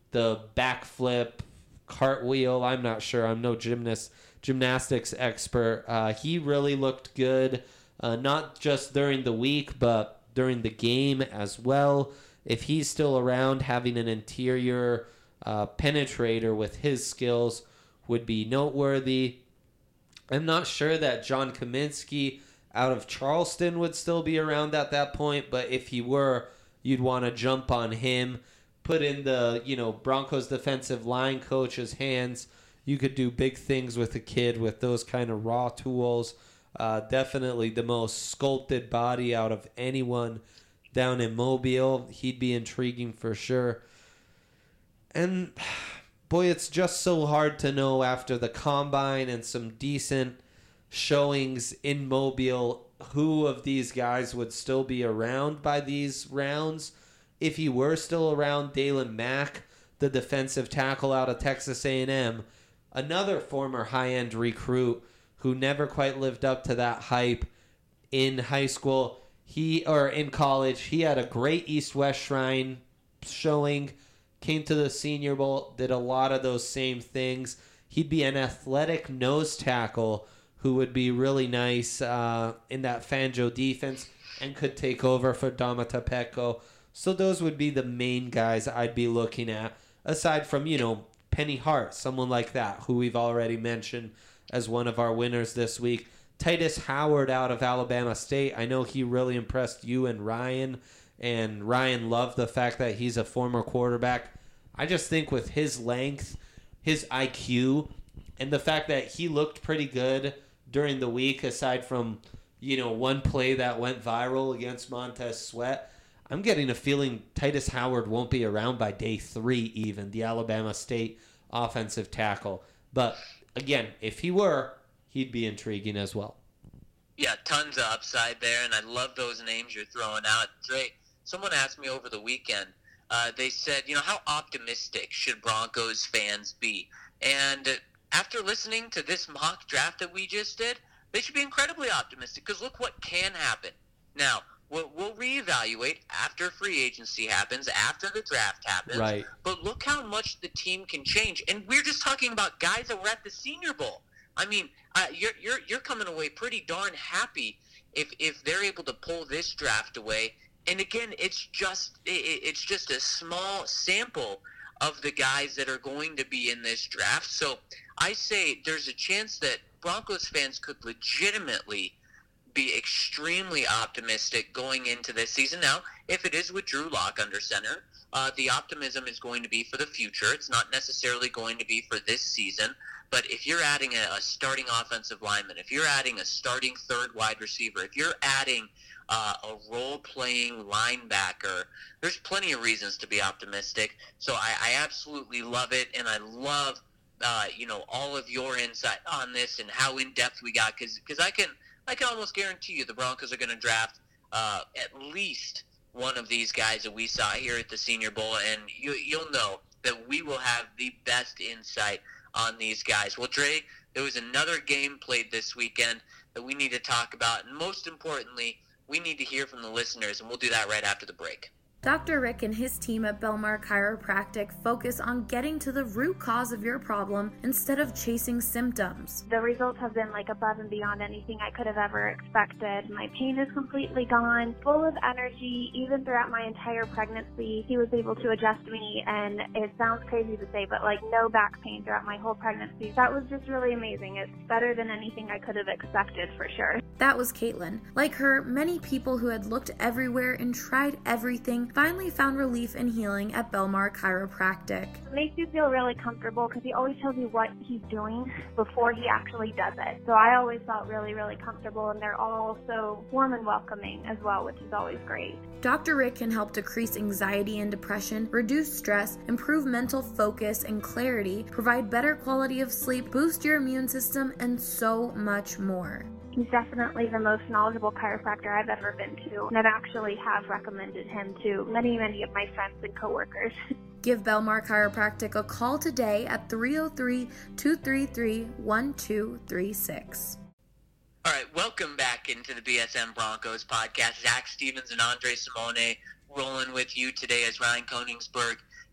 the backflip, cartwheel. I'm not sure. I'm no gymnast, gymnastics expert. Uh, he really looked good, uh, not just during the week, but during the game as well. If he's still around, having an interior uh, penetrator with his skills would be noteworthy. I'm not sure that John Kaminsky out of Charleston would still be around at that point, but if he were, you'd want to jump on him, put in the, you know, Broncos defensive line coach's hands. You could do big things with a kid with those kind of raw tools. Uh, definitely the most sculpted body out of anyone down in Mobile. He'd be intriguing for sure. And boy, it's just so hard to know after the combine and some decent showings in Mobile who of these guys would still be around by these rounds. If he were still around, Dalen Mack, the defensive tackle out of Texas A and M, another former high-end recruit who never quite lived up to that hype in high school. He or in college, he had a great East-West Shrine showing, came to the Senior Bowl, did a lot of those same things. He'd be an athletic nose tackle who would be really nice uh, in that Fangio defense and could take over for Domata Peko. So those would be the main guys I'd be looking at, aside from, you know, Penny Hart, someone like that, who we've already mentioned as one of our winners this week. Titus Howard out of Alabama State. I know he really impressed you and Ryan, and Ryan loved the fact that he's a former quarterback. I just think with his length, his I Q, and the fact that he looked pretty good during the week, aside from, you know, one play that went viral against Montez Sweat, I'm getting a feeling Titus Howard won't be around by day three even, the Alabama State offensive tackle. But, again, if he were, he'd be intriguing as well. Yeah, tons of upside there, and I love those names you're throwing out. Dre, someone asked me over the weekend, uh, they said, you know, how optimistic should Broncos fans be? And after listening to this mock draft that we just did, they should be incredibly optimistic, because look what can happen. Now, we'll, we'll reevaluate after free agency happens, after the draft happens. Right. But look how much the team can change. And we're just talking about guys that were at the Senior Bowl. I mean, uh, you're you're you're coming away pretty darn happy if if they're able to pull this draft away. And again, it's just it, it's just a small sample of the guys that are going to be in this draft. So I say there's a chance that Broncos fans could legitimately be extremely optimistic going into this season. Now, if it is with Drew Lock under center, uh, the optimism is going to be for the future. It's not necessarily going to be for this season. But if you're adding a, a starting offensive lineman, if you're adding a starting third wide receiver, if you're adding uh, a role-playing linebacker, there's plenty of reasons to be optimistic. So I, I absolutely love it, and I love uh, you know all of your insight on this and how in-depth we got, because because I can I can almost guarantee you the Broncos are going to draft uh, at least one of these guys that we saw here at the Senior Bowl, and you, you'll know that we will have the best insight on these guys. Well, Dre, there was another game played this weekend that we need to talk about, and most importantly, we need to hear from the listeners, and we'll do that right after the break. Doctor Rick and his team at Belmar Chiropractic focus on getting to the root cause of your problem instead of chasing symptoms. The results have been like above and beyond anything I could have ever expected. My pain is completely gone, full of energy. Even throughout my entire pregnancy, he was able to adjust me, and it sounds crazy to say, but like no back pain throughout my whole pregnancy. That was just really amazing. It's better than anything I could have expected for sure. That was Caitlin. Like her, many people who had looked everywhere and tried everything finally found relief and healing at Belmar Chiropractic. It makes you feel really comfortable because he always tells you what he's doing before he actually does it. So I always felt really, really comfortable, and they're all so warm and welcoming as well, which is always great. Doctor Rick can help decrease anxiety and depression, reduce stress, improve mental focus and clarity, provide better quality of sleep, boost your immune system, and so much more. He's definitely the most knowledgeable chiropractor I've ever been to, and I've actually have recommended him to many, many of my friends and coworkers. Give Belmar Chiropractic a call today at three oh three, two three three, one two three six. All right, welcome back into the B S M Broncos podcast. Zach Stevens and Andre Simone rolling with you today as Ryan Koenigsberg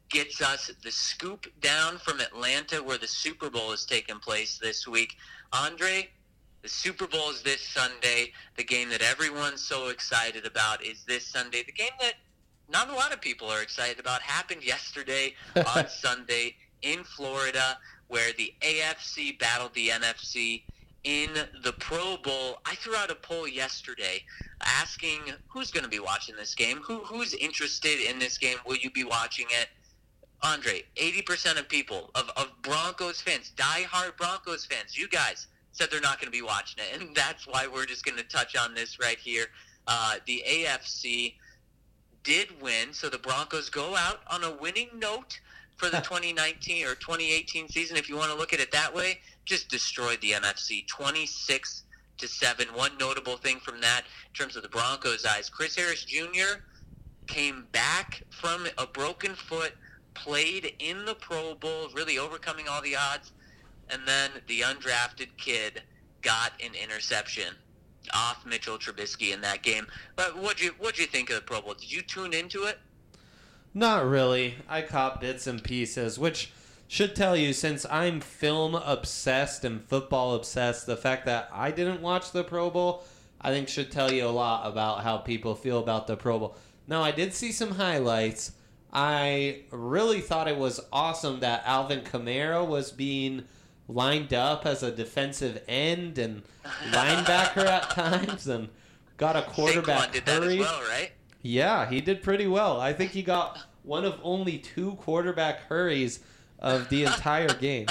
gets us the scoop down from Atlanta where the Super Bowl is taking place this week. Andre, the Super Bowl is this Sunday. The game that everyone's so excited about is this Sunday. The game that not a lot of people are excited about happened yesterday on Sunday in Florida, where the A F C battled the N F C in the Pro Bowl. I threw out a poll yesterday asking who's going to be watching this game, who who's interested in this game, will you be watching it? Andre, eighty percent of people, of, of Broncos fans, diehard Broncos fans, you guys said they're not going to be watching it, and that's why we're just going to touch on this right here. Uh, the A F C did win, so the Broncos go out on a winning note for the twenty nineteen or twenty eighteen season, if you want to look at it that way. Just destroyed the N F C twenty-six to seven. One notable thing from that in terms of the Broncos' eyes, Chris Harris Junior came back from a broken foot, played in the Pro Bowl, really overcoming all the odds, and then the undrafted kid got an interception off Mitchell Trubisky in that game. But what'd you what'd you think of the Pro Bowl? Did you tune into it? Not really. I caught bits and pieces, which should tell you, since I'm film obsessed and football obsessed, the fact that I didn't watch the Pro Bowl, I think should tell you a lot about how people feel about the Pro Bowl. Now, I did see some highlights. I really thought it was awesome that Alvin Kamara was being lined up as a defensive end and linebacker at times, and got a quarterback Saquon did hurry. that as well, right? Yeah, he did pretty well. I think he got one of only two quarterback hurries of the entire game.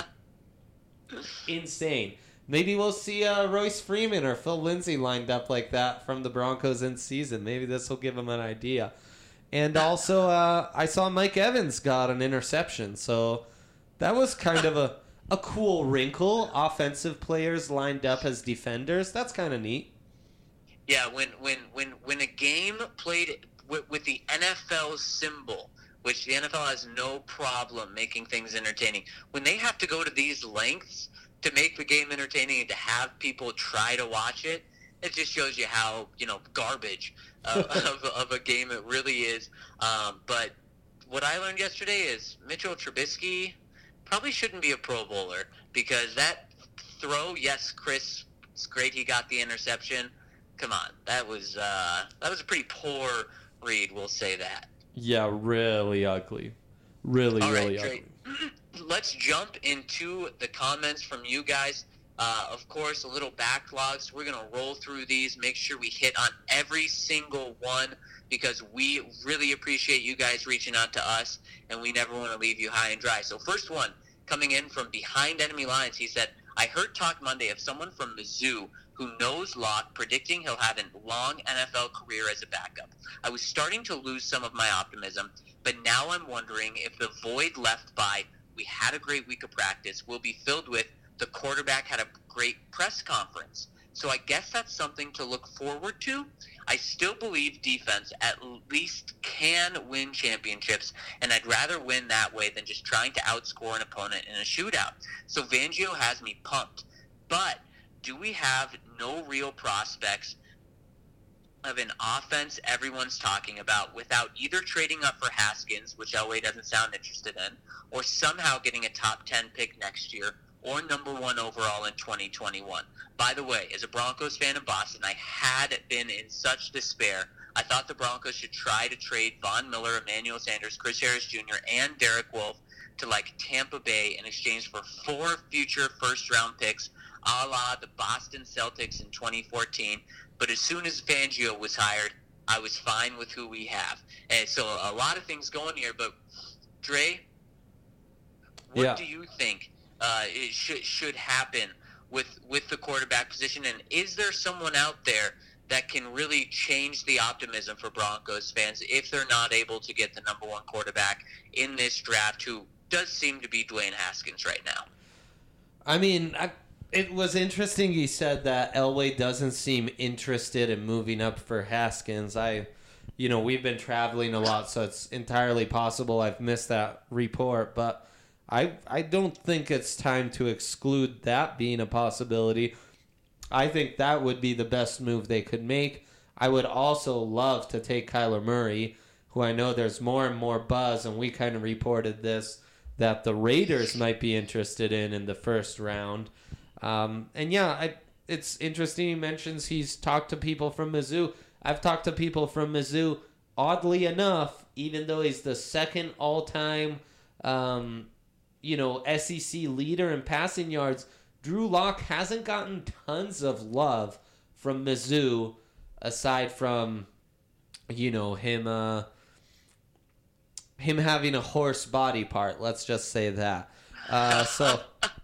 Insane. Maybe we'll see uh, Royce Freeman or Phil Lindsay lined up like that from the Broncos in season. Maybe this will give them an idea. And also, uh, I saw Mike Evans got an interception, so that was kind of a, a cool wrinkle. Offensive players lined up as defenders. That's kind of neat. Yeah, when when when when a game played with, with the N F L symbol, which the N F L has no problem making things entertaining, when they have to go to these lengths to make the game entertaining and to have people try to watch it, it just shows you how, you know, garbage uh, of, of a game it really is. Um, but what I learned yesterday is Mitchell Trubisky probably shouldn't be a Pro Bowler, because that throw, yes, Chris, it's great he got the interception. Come on, that was uh, that was a pretty poor read, we'll say that. Yeah, really ugly. Really, All really right, ugly. Let's jump into the comments from you guys. Uh, of course, a little backlog, so we're going to roll through these, make sure we hit on every single one, because we really appreciate you guys reaching out to us, and we never want to leave you high and dry. So first one, coming in from behind enemy lines, he said, I heard talk Monday of someone from Mizzou who knows Locke, predicting he'll have a long N F L career as a backup. I was starting to lose some of my optimism, but now I'm wondering if the void left by we had a great week of practice will be filled with the quarterback had a great press conference. So I guess that's something to look forward to. I still believe defense at least can win championships, and I'd rather win that way than just trying to outscore an opponent in a shootout. So Fangio has me pumped. But do we have no real prospects of an offense everyone's talking about without either trading up for Haskins, which Elway doesn't sound interested in, or somehow getting a top ten pick next year, or number one overall in twenty twenty-one. By the way, as a Broncos fan in Boston, I had been in such despair. I thought the Broncos should try to trade Von Miller, Emmanuel Sanders, Chris Harris Junior, and Derek Wolfe to like Tampa Bay in exchange for four future first-round picks, a la the Boston Celtics in twenty fourteen. But as soon as Fangio was hired, I was fine with who we have. And so a lot of things going here, but Dre, what yeah. do you think uh, it should should happen with with the quarterback position? And is there someone out there that can really change the optimism for Broncos fans if they're not able to get the number one quarterback in this draft, who does seem to be Dwayne Haskins right now? I mean, I, it was interesting he said that Elway doesn't seem interested in moving up for Haskins. I, you know, we've been traveling a lot, so it's entirely possible I've missed that report, but I I don't think it's time to exclude that being a possibility. I think that would be the best move they could make. I would also love to take Kyler Murray, who I know there's more and more buzz, and we kind of reported this, that the Raiders might be interested in in the first round. Um, and yeah, I, it's interesting he mentions he's talked to people from Mizzou. I've talked to people from Mizzou. Oddly enough, even though he's the second all-time, um, you know, S E C leader in passing yards, Drew Lock hasn't gotten tons of love from Mizzou, aside from, you know, him uh, him having a horse body part. Let's just say that. Uh, so,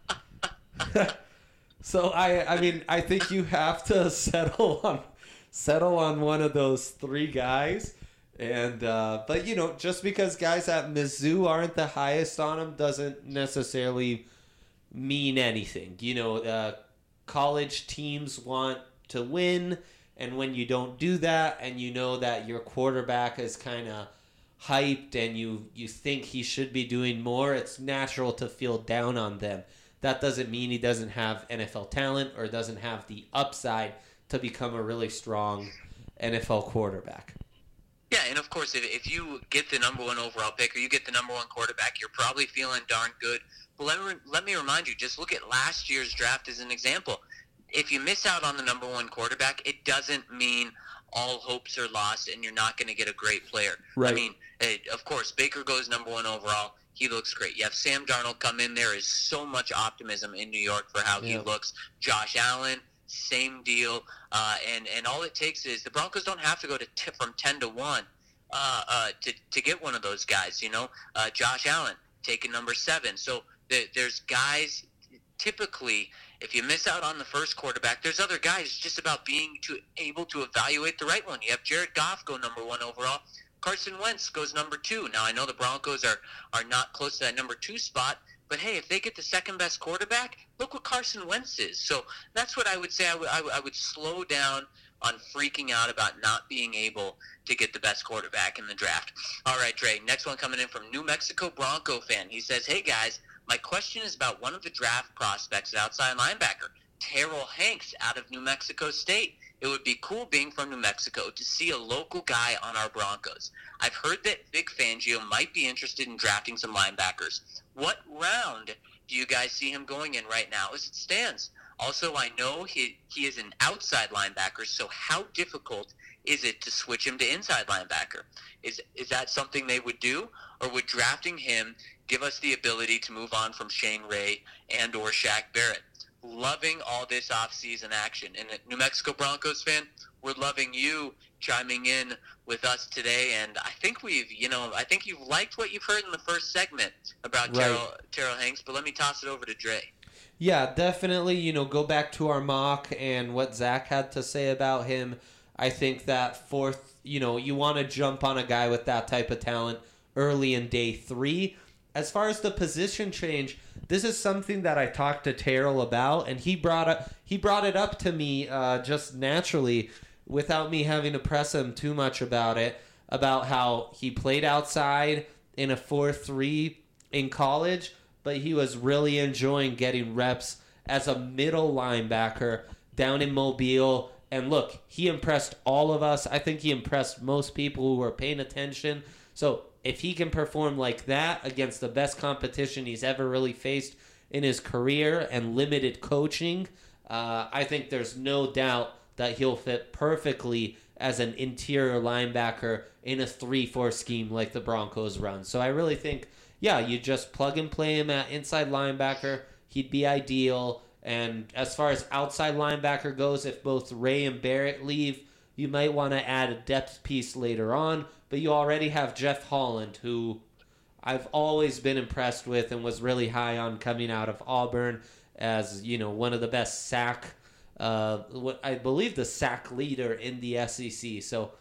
so I, I mean, I think you have to settle on settle on one of those three guys. And uh, but you know, just because guys at Mizzou aren't the highest on him doesn't necessarily mean anything. You know, uh, college teams want to win, and when you don't do that, and you know that your quarterback is kind of hyped, and you you think he should be doing more, it's natural to feel down on them. That doesn't mean he doesn't have N F L talent or doesn't have the upside to become a really strong N F L quarterback. Yeah, and of course, if, if you get the number one overall pick or you get the number one quarterback, you're probably feeling darn good. But let me, let me remind you, just look at last year's draft as an example. If you miss out on the number one quarterback, it doesn't mean all hopes are lost and you're not going to get a great player. Right. I mean, it, of course, Baker goes number one overall. He looks great. You have Sam Darnold come in. There is so much optimism in New York for how yeah. he looks. Josh Allen, same deal. Uh, and, and all it takes is the Broncos don't have to go to t- from ten to one uh, uh, to, to get one of those guys, you know. Uh, Josh Allen taking number seven. So the, there's guys typically, if you miss out on the first quarterback, there's other guys. It's just about being to, able to evaluate the right one. You have Jared Goff go number one overall. Carson Wentz goes number two. Now, I know the Broncos are, are not close to that number two spot, but hey, if they get the second best quarterback, look what Carson Wentz is. So that's what I would say. I, w- I, w- I would slow down on freaking out about not being able to get the best quarterback in the draft. All right, Dre, next one coming in from New Mexico Bronco fan. He says, hey, guys, my question is about one of the draft prospects at outside linebacker, Terrell Hanks out of New Mexico State. It would be cool being from New Mexico to see a local guy on our Broncos. I've heard that Vic Fangio might be interested in drafting some linebackers. What round do you guys see him going in right now as it stands? Also, I know he he is an outside linebacker, so how difficult is it to switch him to inside linebacker? Is is that something they would do, or would drafting him give us the ability to move on from Shane Ray and or Shaq Barrett? Loving all this offseason action. And a New Mexico Broncos fan, we're loving you chiming in with us today. And I think we've, you know, I think you've liked what you've heard in the first segment about Right. Terrell, Terrell Hanks, but let me toss it over to Dre. Yeah, definitely, you know, go back to our mock and what Zach had to say about him. I think that fourth, you know, you want to jump on a guy with that type of talent early in day three. As far as the position change, this is something that I talked to Terrell about, and he brought up, he brought it up to me uh, just naturally without me having to press him too much about it, about how he played outside in a four three in college, but he was really enjoying getting reps as a middle linebacker down in Mobile. And look, he impressed all of us. I think he impressed most people who were paying attention. So if he can perform like that against the best competition he's ever really faced in his career and limited coaching, uh, I think there's no doubt that he'll fit perfectly as an interior linebacker in a three four scheme like the Broncos run. So I really think, yeah, you just plug and play him at inside linebacker. He'd be ideal. And as far as outside linebacker goes, if both Ray and Barrett leave, you might want to add a depth piece later on. But you already have Jeff Holland, who I've always been impressed with and was really high on coming out of Auburn as, you know, one of the best sack, uh, what I believe the sack leader in the S E C. So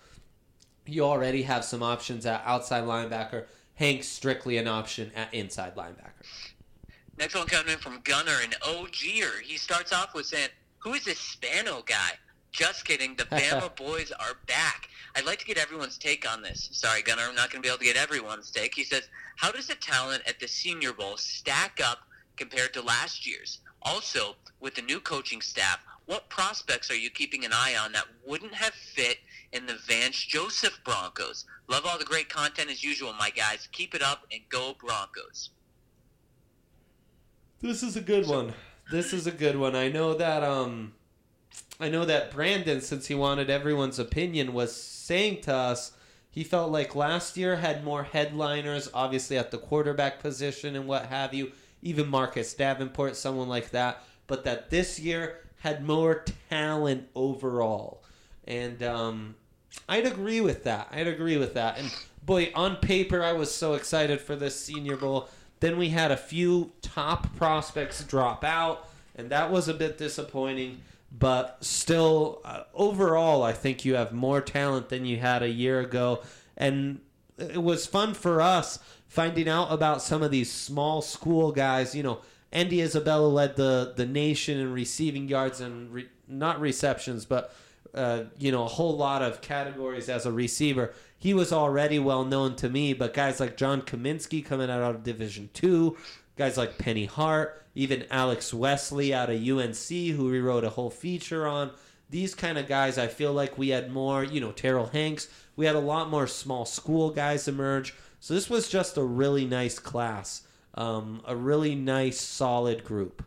you already have some options at outside linebacker. Hank's strictly an option at inside linebacker. Next one coming in from Gunner, an O G-er. He starts off with saying, who is this Spano guy? Just kidding. The Bama boys are back. I'd like to get everyone's take on this. Sorry, Gunnar, I'm not going to be able to get everyone's take. He says, how does the talent at the Senior Bowl stack up compared to last year's? Also, with the new coaching staff, what prospects are you keeping an eye on that wouldn't have fit in the Vance Joseph Broncos. Love all the great content as usual, my guys. Keep it up and go Broncos. This is a good one. This is a good one. I know that um, I know that Brandon, since he wanted everyone's opinion, was saying to us he felt like last year had more headliners, obviously at the quarterback position and what have you, even Marcus Davenport, someone like that, but that this year had more talent overall. And um, I'd agree with that. I'd agree with that. And boy, on paper, I was so excited for this Senior Bowl. Then we had a few top prospects drop out, and that was a bit disappointing. But still, uh, overall, I think you have more talent than you had a year ago. And it was fun for us finding out about some of these small school guys. You know, Andy Isabella led the, the nation in receiving yards and re- not receptions, but, uh, you know, a whole lot of categories as a receiver. He was already well known to me, but guys like John Kaminsky coming out of Division Two, guys like Penny Hart, even Alex Wesley out of U N C, who we wrote a whole feature on. These kind of guys, I feel like we had more, you know, Terrell Hanks. We had a lot more small school guys emerge. So this was just a really nice class, um, a really nice, solid group.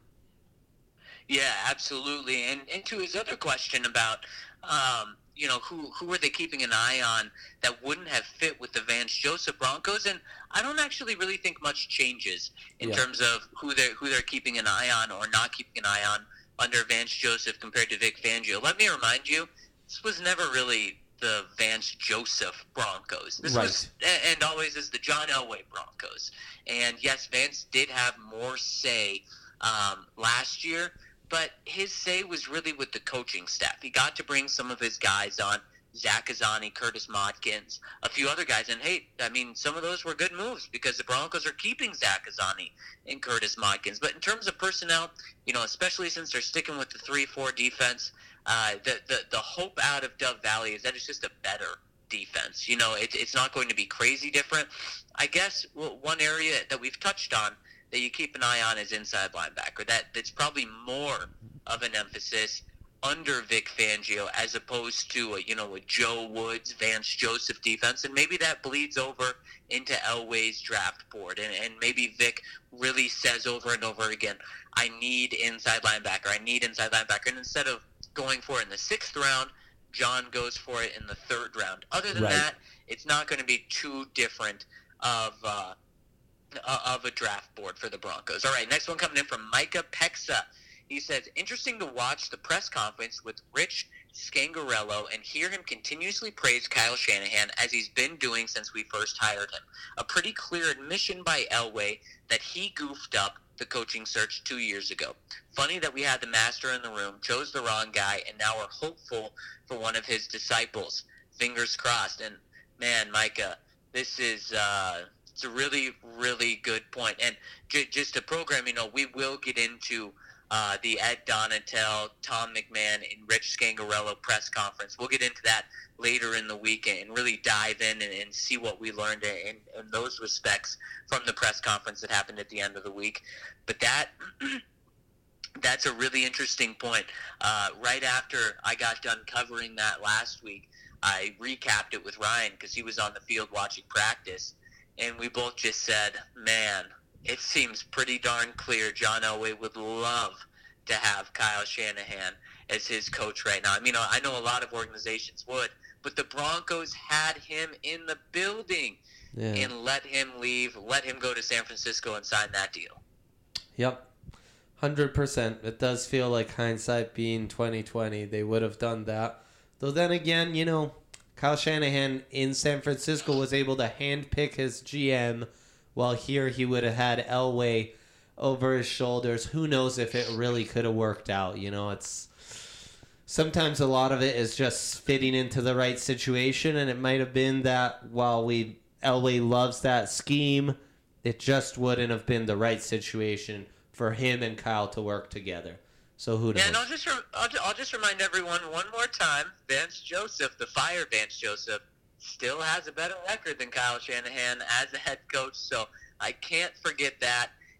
Yeah, absolutely. And, and to his other question about, um, you know, who who were they keeping an eye on that wouldn't have fit with the Vance Joseph Broncos? And I don't actually really think much changes in Yeah. terms of who they're, who they're keeping an eye on or not keeping an eye on under Vance Joseph compared to Vic Fangio. Let me remind you, this was never really the Vance Joseph Broncos. This Right. was, and always is, the John Elway Broncos. And yes, Vance did have more say um, last year, but his say was really with the coaching staff. He got to bring some of his guys on, Zach Azzani, Curtis Modkins, a few other guys. And, hey, I mean, some of those were good moves because the Broncos are keeping Zach Azzani and Curtis Modkins. But in terms of personnel, you know, especially since they're sticking with the three four defense, uh, the, the, the hope out of Dove Valley is that it's just a better defense. You know, it, it's not going to be crazy different. I guess well, one area that we've touched on that you keep an eye on is inside linebacker. That that's probably more of an emphasis under Vic Fangio as opposed to a, you know, a Joe Woods, Vance Joseph defense, and maybe that bleeds over into Elway's draft board, and, and maybe Vic really says over and over again, I need inside linebacker, I need inside linebacker, and instead of going for it in the sixth round, John goes for it in the third round. Other than Right. that, it's not going to be too different of uh, of a draft board for the Broncos. All right, next one coming in from Micah Pexa. He says, interesting to watch the press conference with Rich Scangarello and hear him continuously praise Kyle Shanahan as he's been doing since we first hired him. A pretty clear admission by Elway that he goofed up the coaching search two years ago. Funny that we had the master in the room, chose the wrong guy, and now we're hopeful for one of his disciples. Fingers crossed. And, man, Micah, this is uh, it's a really, really good point. And j- just a program, you know, we will get into Uh, the Ed Donatel, Tom McMahon, and Rich Scangarello press conference. We'll get into that later in the week and really dive in and, and see what we learned in, in those respects from the press conference that happened at the end of the week. But that that's a really interesting point. Uh, right after I got done covering that last week, I recapped it with Ryan because he was on the field watching practice, and we both just said, man, it seems pretty darn clear John Elway would love to have Kyle Shanahan as his coach right now. I mean, I know a lot of organizations would, but the Broncos had him in the building Yeah. and let him leave, let him go to San Francisco and sign that deal. Yep. one hundred percent. It does feel like hindsight being twenty twenty. They would have done that. Though then again, you know, Kyle Shanahan in San Francisco was able to handpick his G M, while here he would have had Elway over his shoulders. Who knows if it really could have worked out. You know, it's sometimes a lot of it is just fitting into the right situation, and it might have been that while we Elway loves that scheme, it just wouldn't have been the right situation for him and Kyle to work together. So who knows? Yeah, and I'll just, re- I'll, I'll just remind everyone one more time, Vance Joseph, the fire Vance Joseph, still has a better record than Kyle Shanahan as a head coach, so I can't forget that.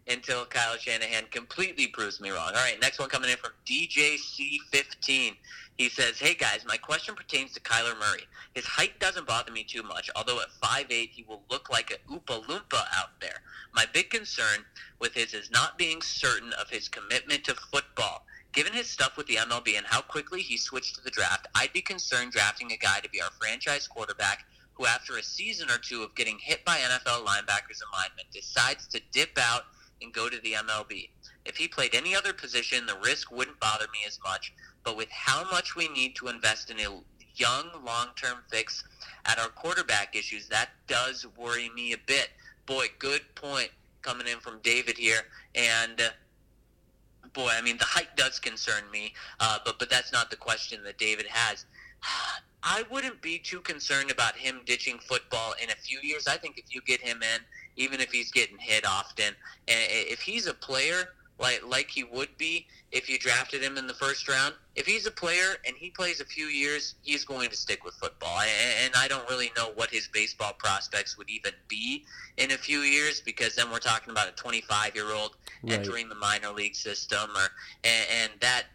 until Kyle Shanahan completely proves me wrong. All right, next one coming in from D J C fifteen. He says, hey guys, my question pertains to Kyler Murray. His height doesn't bother me too much, although at five eight he will look like a Oompa Loompa out there. My big concern with his is not being certain of his commitment to football. Given his stuff with the M L B and how quickly he switched to the draft, I'd be concerned drafting a guy to be our franchise quarterback who, after a season or two of getting hit by N F L linebackers and linemen, decides to dip out and go to the M L B. If he played any other position, the risk wouldn't bother me as much, but with how much we need to invest in a young, long-term fix at our quarterback issues, that does worry me a bit. Boy, good point coming in from David here, and uh, boy, I mean, the height does concern me, uh, but but that's not the question that David has. I wouldn't be too concerned about him ditching football in a few years. I think if you get him in, even if he's getting hit often, and if he's a player like like he would be if you drafted him in the first round, if he's a player and he plays a few years, he's going to stick with football. And I don't really know what his baseball prospects would even be in a few years, because then we're talking about a twenty-five-year-old right. entering the minor league system, or and, and that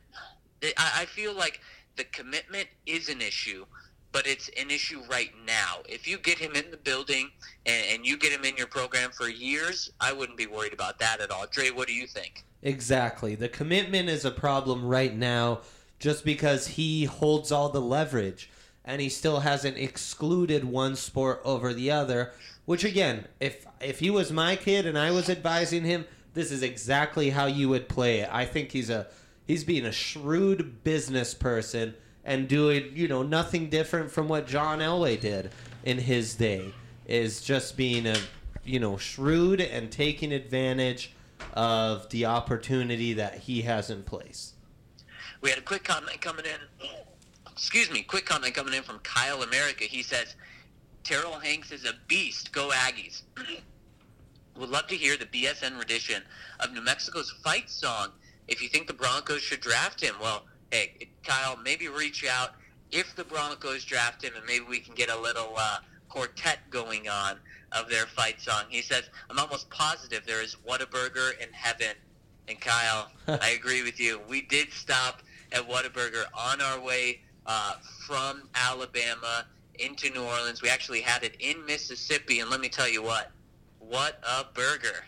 I feel like the commitment is an issue, but it's an issue right now. If you get him in the building and, and you get him in your program for years, I wouldn't be worried about that at all. Dre, what do you think? Exactly. The commitment is a problem right now just because he holds all the leverage and he still hasn't excluded one sport over the other, which again, if if he was my kid and I was advising him, this is exactly how you would play it. I think he's a he's being a shrewd business person and doing, you know, nothing different from what John Elway did in his day, is just being a, you know, shrewd and taking advantage of the opportunity that he has in place. We had a quick comment coming in. Excuse me, quick comment coming in from Kyle America. He says, Terrell Hanks is a beast. Go Aggies. Would love to hear the B S N rendition of New Mexico's fight song if you think the Broncos should draft him. Well, hey, Kyle, maybe reach out if the Broncos draft him, and maybe we can get a little uh, quartet going on of their fight song. He says, I'm almost positive there is Whataburger in heaven. And Kyle, I agree with you. We did stop at Whataburger on our way uh, from Alabama into New Orleans. We actually had it in Mississippi, and let me tell you what, what a burger.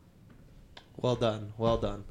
Well done, well done.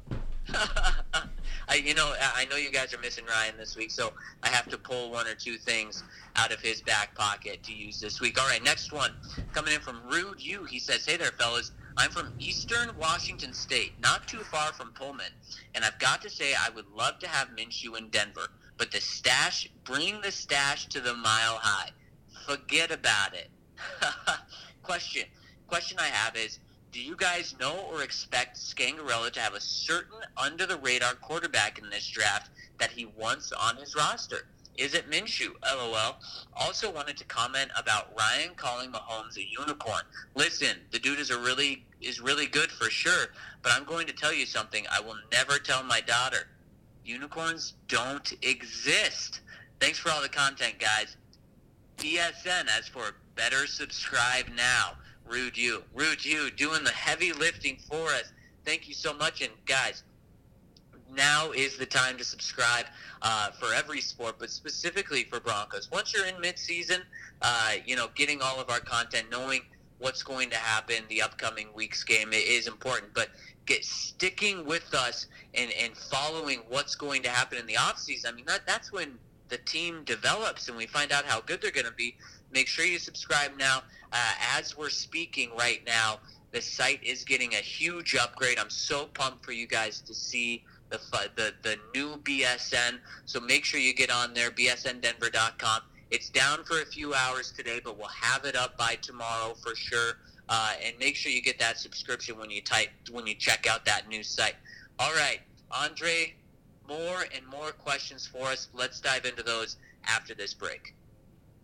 I, you know, I know you guys are missing Ryan this week, so I have to pull one or two things out of his back pocket to use this week. All right, next one coming in from Rude U. He says, hey there, fellas. I'm from Eastern Washington State, not too far from Pullman, and I've got to say I would love to have Minshew in Denver, but the stash, bring the stash to the Mile High. Forget about it. Question. Question I have is, do you guys know or expect Scangarella to have a certain under-the-radar quarterback in this draft that he wants on his roster? Is it Minshew? LOL. Also wanted to comment about Ryan calling Mahomes a unicorn. Listen, the dude is a really is really good for sure, but I'm going to tell you something I will never tell my daughter. Unicorns don't exist. Thanks for all the content, guys. B S N, as for better subscribe now. Rude you. Rude you, doing the heavy lifting for us. Thank you so much. And guys, now is the time to subscribe uh, for every sport, but specifically for Broncos. Once you're in mid-season, uh, you know, getting all of our content, knowing what's going to happen, the upcoming week's game is important. But get sticking with us and, and following what's going to happen in the offseason. I mean, that that's when the team develops and we find out how good they're going to be. Make sure you subscribe now. Uh, as we're speaking right now, the site is getting a huge upgrade. I'm so pumped for you guys to see the the, the new B S N. So make sure you get on there, B S N Denver dot com. It's down for a few hours today, but we'll have it up by tomorrow for sure. Uh, and make sure you get that subscription when you type when you check out that new site. All right, Andre, more and more questions for us. Let's dive into those after this break.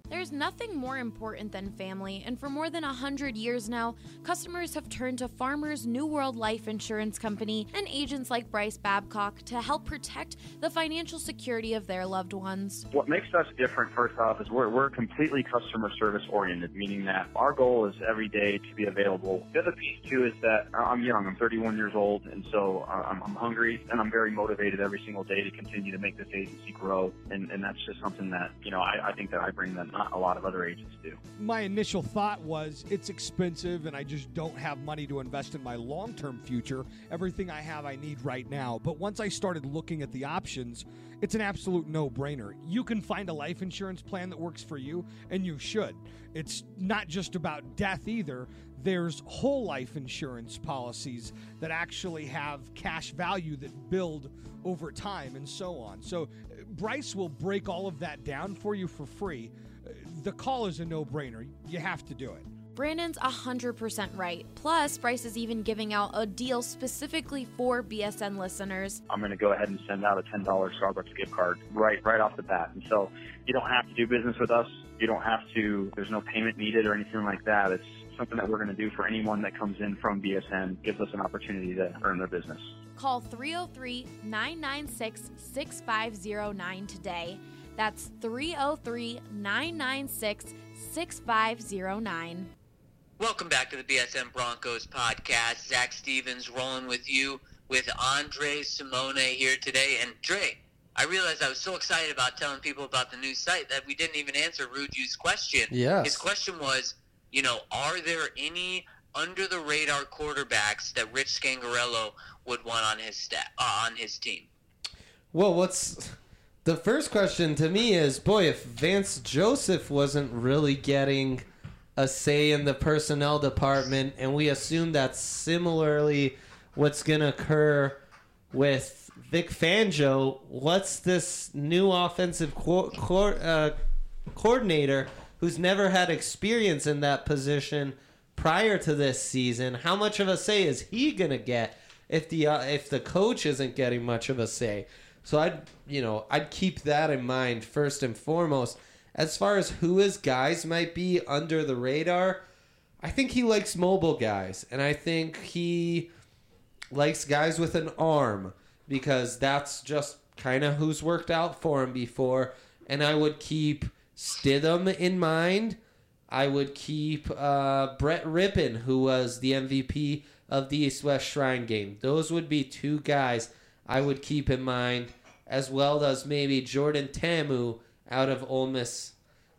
There's nothing more important than family, and for more than a hundred years now, customers have turned to Farmers New World Life Insurance Company and agents like Bryce Babcock to help protect the financial security of their loved ones. What makes us different, first off, is we're, we're completely customer service oriented, meaning that our goal is every day to be available. The other piece, too, is that I'm young. I'm thirty-one years old, and so I'm, I'm hungry, and I'm very motivated every single day to continue to make this agency grow, and, and that's just something that, you know, I, I think that I bring that not a lot of other agents do. My initial thought was it's expensive and I just don't have money to invest in my long-term future. Everything I have I need right now. But once I started looking at the options, it's an absolute no-brainer. You can find a life insurance plan that works for you, and you should. It's not just about death either. There's whole life insurance policies that actually have cash value that build over time and so on. So Bryce will break all of that down for you for free. The call is a no-brainer. You have to do it. Brandon's one hundred percent right. Plus, Bryce is even giving out a deal specifically for B S N listeners. I'm going to go ahead and send out a ten dollars Starbucks gift card right right off the bat. And so you don't have to do business with us. You don't have to, there's no payment needed or anything like that. It's something that we're going to do for anyone that comes in from B S N, gives us an opportunity to earn their business. Call three oh three, nine nine six, six five oh nine today. That's three oh three, nine nine six, six five oh nine. Welcome back to the B S N Broncos podcast. Zach Stevens rolling with you with Andre Simone here today. And Dre, I realized I was so excited about telling people about the new site that we didn't even answer Ruju's question. Yes. His question was, you know, are there any under-the-radar quarterbacks that Rich Scangarello would want on his sta- uh, on his team? Well, what's the first question to me is, boy, if Vance Joseph wasn't really getting a say in the personnel department, and we assume that's similarly what's going to occur with Vic Fangio, what's this new offensive co- co- uh, coordinator who's never had experience in that position prior to this season? How much of a say is he going to get if the uh, if the coach isn't getting much of a say? So I'd, you know, I'd keep that in mind first and foremost. As far as who his guys might be under the radar, I think he likes mobile guys, and I think he likes guys with an arm, because that's just kind of who's worked out for him before. And I would keep Stidham in mind. I would keep uh, Brett Rippon, who was the M V P of the East-West Shrine game. Those would be two guys I would keep in mind, as well as maybe Jordan Ta'amu out of Ole Miss.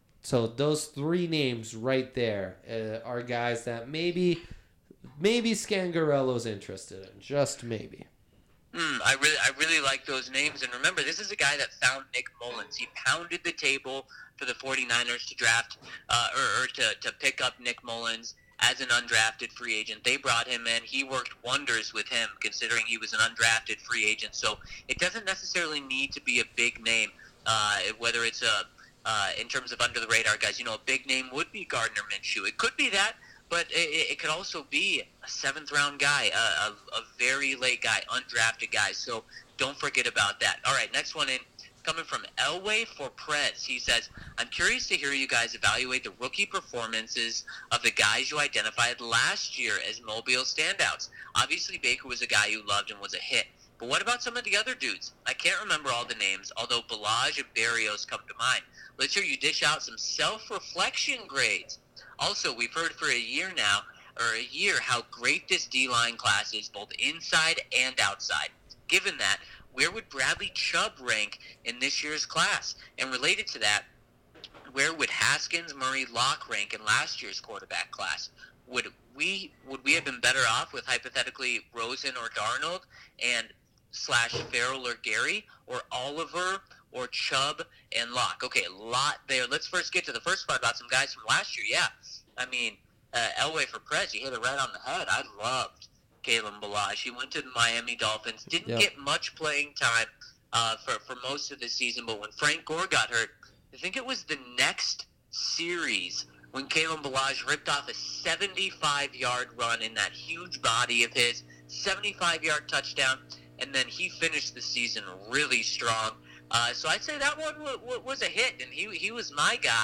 So those three names right there uh, are guys that maybe maybe Scangarello's interested in, just maybe. Mm, I really, I really like those names. And remember, this is a guy that found Nick Mullins. He pounded the table for the 49ers to draft uh, or, or to, to pick up Nick Mullins as an undrafted free agent. They brought him in. He worked wonders with him, considering he was an undrafted free agent. So it doesn't necessarily need to be a big name, uh, whether it's a uh, in terms of under the radar guys. You know, a big name would be Gardner Minshew. It could be that. But it, it could also be a seventh-round guy, a, a, a very late guy, undrafted guy. So don't forget about that. All right, next one in, coming from Elway for Prez. He says, I'm curious to hear you guys evaluate the rookie performances of the guys you identified last year as Mobile standouts. Obviously, Baker was a guy you loved and was a hit. But what about some of the other dudes? I can't remember all the names, although Ballage and Berrios come to mind. Let's hear you dish out some self-reflection grades. Also, we've heard for a year now, or a year, how great this D-line class is, both inside and outside. Given that, where would Bradley Chubb rank in this year's class? And related to that, where would Haskins, Murray, Locke rank in last year's quarterback class? Would we would we have been better off with hypothetically Rosen or Darnold and slash Farrell or Gary, or Oliver or Chubb and Locke? Okay, a lot there. Let's first get to the first part about some guys from last year. Yeah, I mean, uh, Elway for Prez, you hit it right on the head. I loved Kalen Ballage. He went to the Miami Dolphins. Didn't yep. get much playing time uh, for, for most of the season, but when Frank Gore got hurt, I think it was the next series when Kalen Ballage ripped off a seventy-five-yard run in that huge body of his, seventy-five-yard touchdown, and then he finished the season really strong. Uh, so I'd say that one w- w- was a hit, and he he was my guy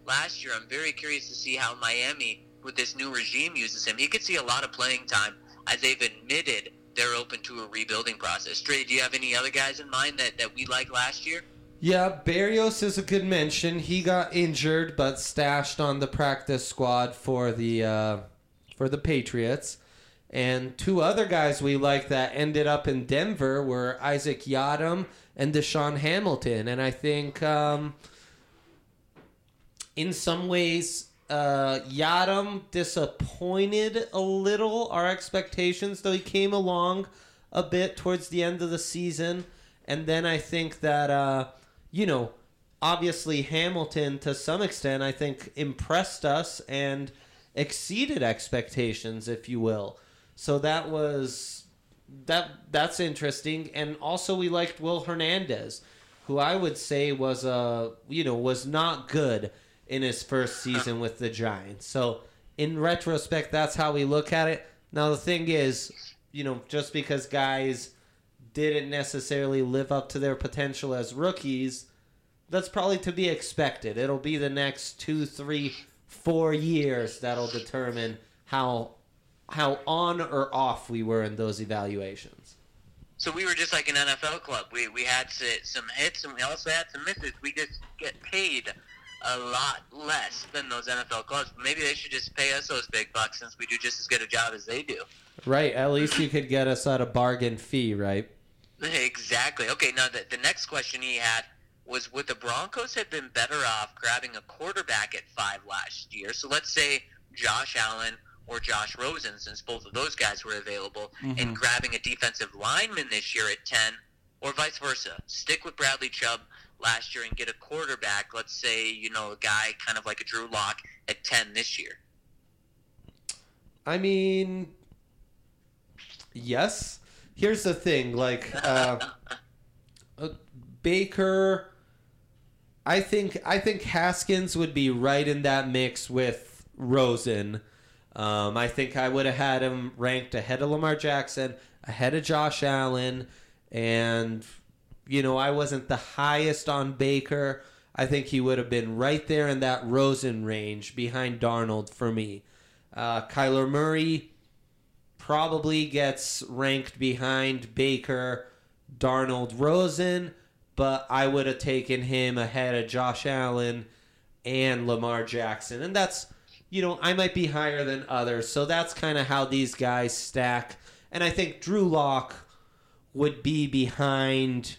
last year. I'm very curious to see how Miami, with this new regime, uses him. He could see a lot of playing time, as they've admitted they're open to a rebuilding process. Trey, do you have any other guys in mind that, that we liked last year? Yeah, Berrios is a good mention. He got injured but stashed on the practice squad for the uh, for the Patriots. And two other guys we like that ended up in Denver were Isaac Yiadom and Deshaun Hamilton. And I think um, in some ways, uh, Yiadom disappointed a little our expectations, though he came along a bit towards the end of the season. And then I think that... Uh, You know, obviously Hamilton, to some extent, I think impressed us and exceeded expectations, if you will. So that was that. That's interesting. And also, we liked Will Hernandez, who I would say was a you know was not good in his first season with the Giants. So in retrospect, that's how we look at it. Now the thing is, you know, just because guys didn't necessarily live up to their potential as rookies, that's probably to be expected. It'll be the next two, three, four years that'll determine how how on or off we were in those evaluations. So we were just like an N F L club. We we had some hits and we also had some misses. We just get paid a lot less than those N F L clubs. Maybe they should just pay us those big bucks since we do just as good a job as they do. Right. At least you could get us at a bargain fee, right? Exactly. Okay, now the, the next question he had was, would the Broncos have been better off grabbing a quarterback at five last year? So let's say Josh Allen or Josh Rosen, since both of those guys were available, mm-hmm. and grabbing a defensive lineman this year at ten, or vice versa. Stick with Bradley Chubb last year and get a quarterback, let's say, you know, a guy kind of like a Drew Lock at ten this year. I mean, yes. Here's the thing, like, uh, uh, Baker, I think I think Haskins would be right in that mix with Rosen. Um, I think I would have had him ranked ahead of Lamar Jackson, ahead of Josh Allen, and, you know, I wasn't the highest on Baker. I think he would have been right there in that Rosen range behind Darnold for me. Uh, Kyler Murray probably gets ranked behind Baker, Darnold, Rosen, but I would have taken him ahead of Josh Allen and Lamar Jackson. And that's, you know, I might be higher than others, so that's kind of how these guys stack. And I think Drew Lock would be behind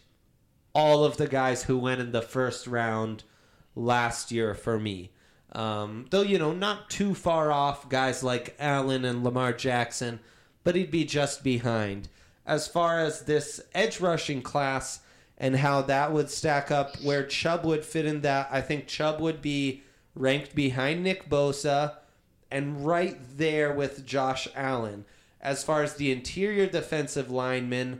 all of the guys who went in the first round last year for me. Um, though, you know, not too far off guys like Allen and Lamar Jackson, but he'd be just behind. As far as this edge rushing class and how that would stack up, where Chubb would fit in that, I think Chubb would be ranked behind Nick Bosa and right there with Josh Allen. As far as the interior defensive linemen,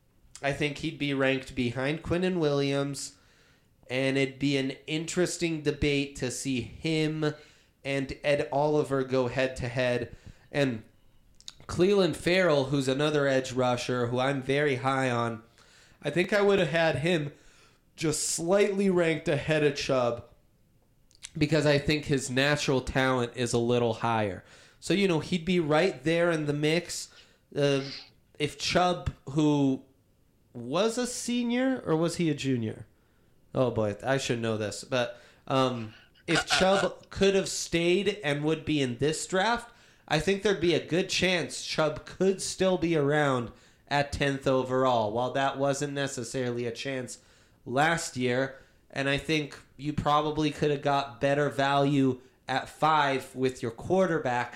I think he'd be ranked behind Quinnen Williams, and it'd be an interesting debate to see him and Ed Oliver go head-to-head. And Cleveland Farrell, who's another edge rusher who I'm very high on, I think I would have had him just slightly ranked ahead of Chubb because I think his natural talent is a little higher. So, you know, he'd be right there in the mix. Uh, if Chubb, who was a senior, or was he a junior? Oh, boy, I should know this. But um, if Chubb could have stayed and would be in this draft, I think there'd be a good chance Chubb could still be around at tenth overall, while that wasn't necessarily a chance last year. And I think you probably could have got better value at five with your quarterback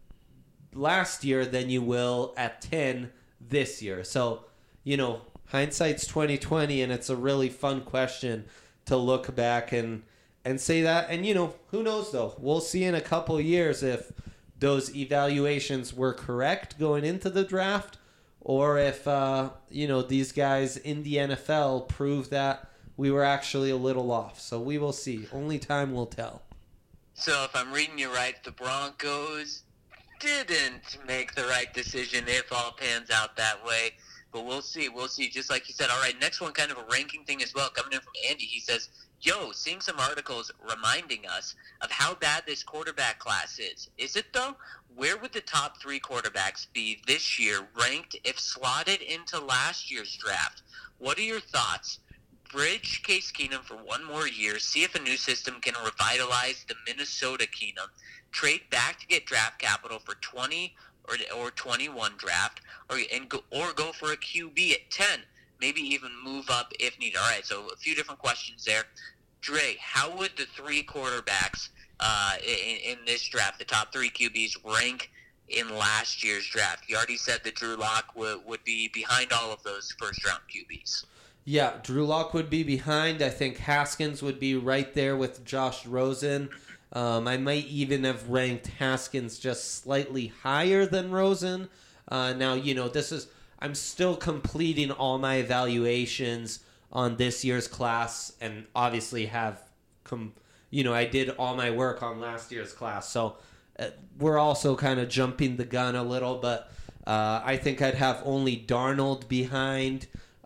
last year than you will at ten this year. So, you know, hindsight's twenty twenty, and it's a really fun question to look back and and say that. And, you know, who knows, though? We'll see in a couple of years if those evaluations were correct going into the draft, or if, uh, you know, these guys in the N F L prove that we were actually a little off. So we will see. Only time will tell. So if I'm reading you right, the Broncos didn't make the right decision if all pans out that way. But we'll see. We'll see. Just like you said. All right, next one, kind of a ranking thing as well. Coming in from Andy, he says, yo, seeing some articles reminding us of how bad this quarterback class is. Is it, though? Where would the top three quarterbacks be this year ranked if slotted into last year's draft? What are your thoughts? Bridge Case Keenum for one more year, see if a new system can revitalize the Minnesota Keenum, trade back to get draft capital for twenty or or twenty-one draft, or and go, or go for a Q B at ten, maybe even move up if needed. All right, so a few different questions there. Dre, how would the three quarterbacks uh, in, in this draft, the top three Q Bs, rank in last year's draft? You already said that Drew Lock would, would be behind all of those first-round Q Bs. Yeah, Drew Lock would be behind. I think Haskins would be right there with Josh Rosen. Um, I might even have ranked Haskins just slightly higher than Rosen. Uh, now, you know, this is I'm still completing all my evaluations on this year's class, and obviously have, com- you know, I did all my work on last year's class. So uh, we're also kind of jumping the gun a little, but uh, I think I'd have only Darnold behind.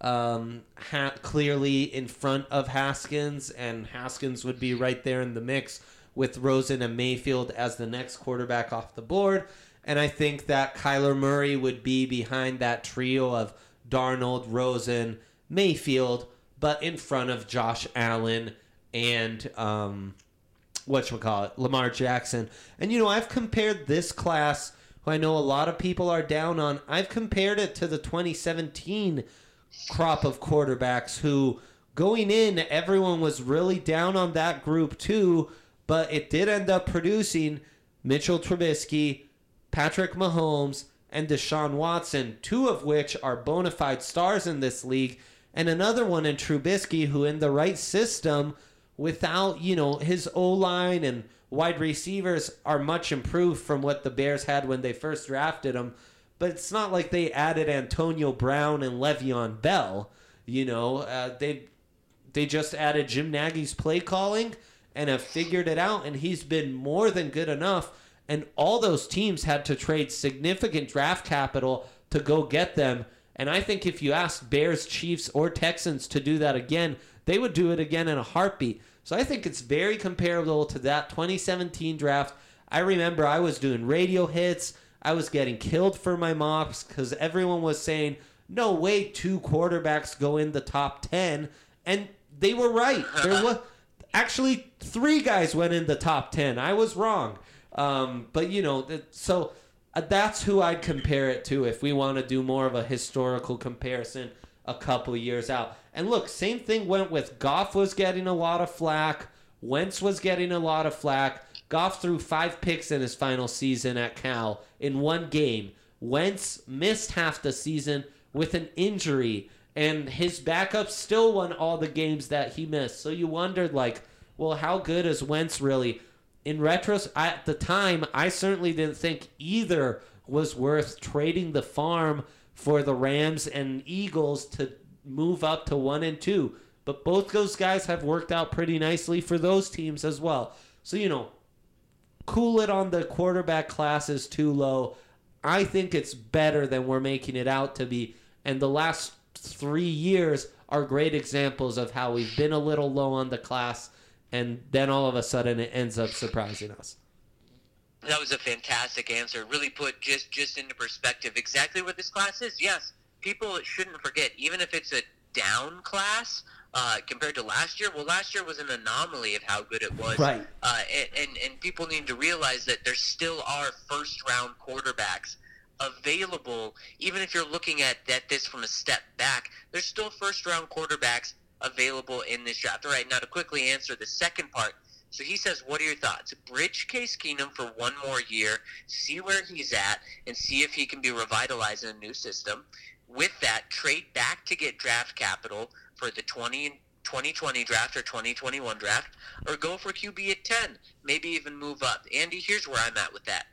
Um, ha- clearly in front of Haskins, and Haskins would be right there in the mix with Rosen and Mayfield as the next quarterback off the board. And I think that Kyler Murray would be behind that trio of Darnold, Rosen, Mayfield, but in front of Josh Allen and um, whatchamacallit, Lamar Jackson. And, you know, I've compared this class, who I know a lot of people are down on, I've compared it to the twenty seventeen crop of quarterbacks who, going in, everyone was really down on that group too, but it did end up producing Mitchell Trubisky, Patrick Mahomes, and Deshaun Watson, two of which are bona fide stars in this league, and another one in Trubisky, who in the right system, without, you know, his O-line and wide receivers are much improved from what the Bears had when they first drafted him. But it's not like they added Antonio Brown and Le'Veon Bell. You know, uh, they they just added Jim Nagy's play calling and have figured it out, and he's been more than good enough. And all those teams had to trade significant draft capital to go get them. And I think if you asked Bears, Chiefs, or Texans to do that again, they would do it again in a heartbeat. So I think it's very comparable to that twenty seventeen draft. I remember I was doing radio hits. I was getting killed for my mocks because everyone was saying, no way two quarterbacks go in the top ten. And they were right. There was actually three guys went in the top ten. I was wrong. Um, but, you know, so that's who I'd compare it to if we want to do more of a historical comparison a couple of years out. And look, same thing went with Goff was getting a lot of flack. Wentz was getting a lot of flack. Goff threw five picks in his final season at Cal in one game. Wentz missed half the season with an injury, and his backup still won all the games that he missed. So you wondered, like, well, how good is Wentz really? In retrospect, at the time, I certainly didn't think either was worth trading the farm for the Rams and Eagles to move up to one and two. But both those guys have worked out pretty nicely for those teams as well. So, you know, cool it on the quarterback classes too low. I think it's better than we're making it out to be. And the last three years are great examples of how we've been a little low on the class, and then all of a sudden it ends up surprising us. That was a fantastic answer. Really put just, just into perspective exactly what this class is. Yes, people shouldn't forget, even if it's a down class, Uh, compared to last year, well, last year was an anomaly of how good it was. Right. Uh, and, and, and people need to realize that there still are first-round quarterbacks available. Even if you're looking at, at this from a step back, there's still first-round quarterbacks available in this draft. All right, now to quickly answer the second part. So he says, what are your thoughts? Bridge Case Keenum for one more year, see where he's at, and see if he can be revitalized in a new system. With that, trade back to get draft capital for the twenty twenty draft or twenty twenty-one draft, or go for Q B at ten, maybe even move up. Andy, here's where I'm at with that.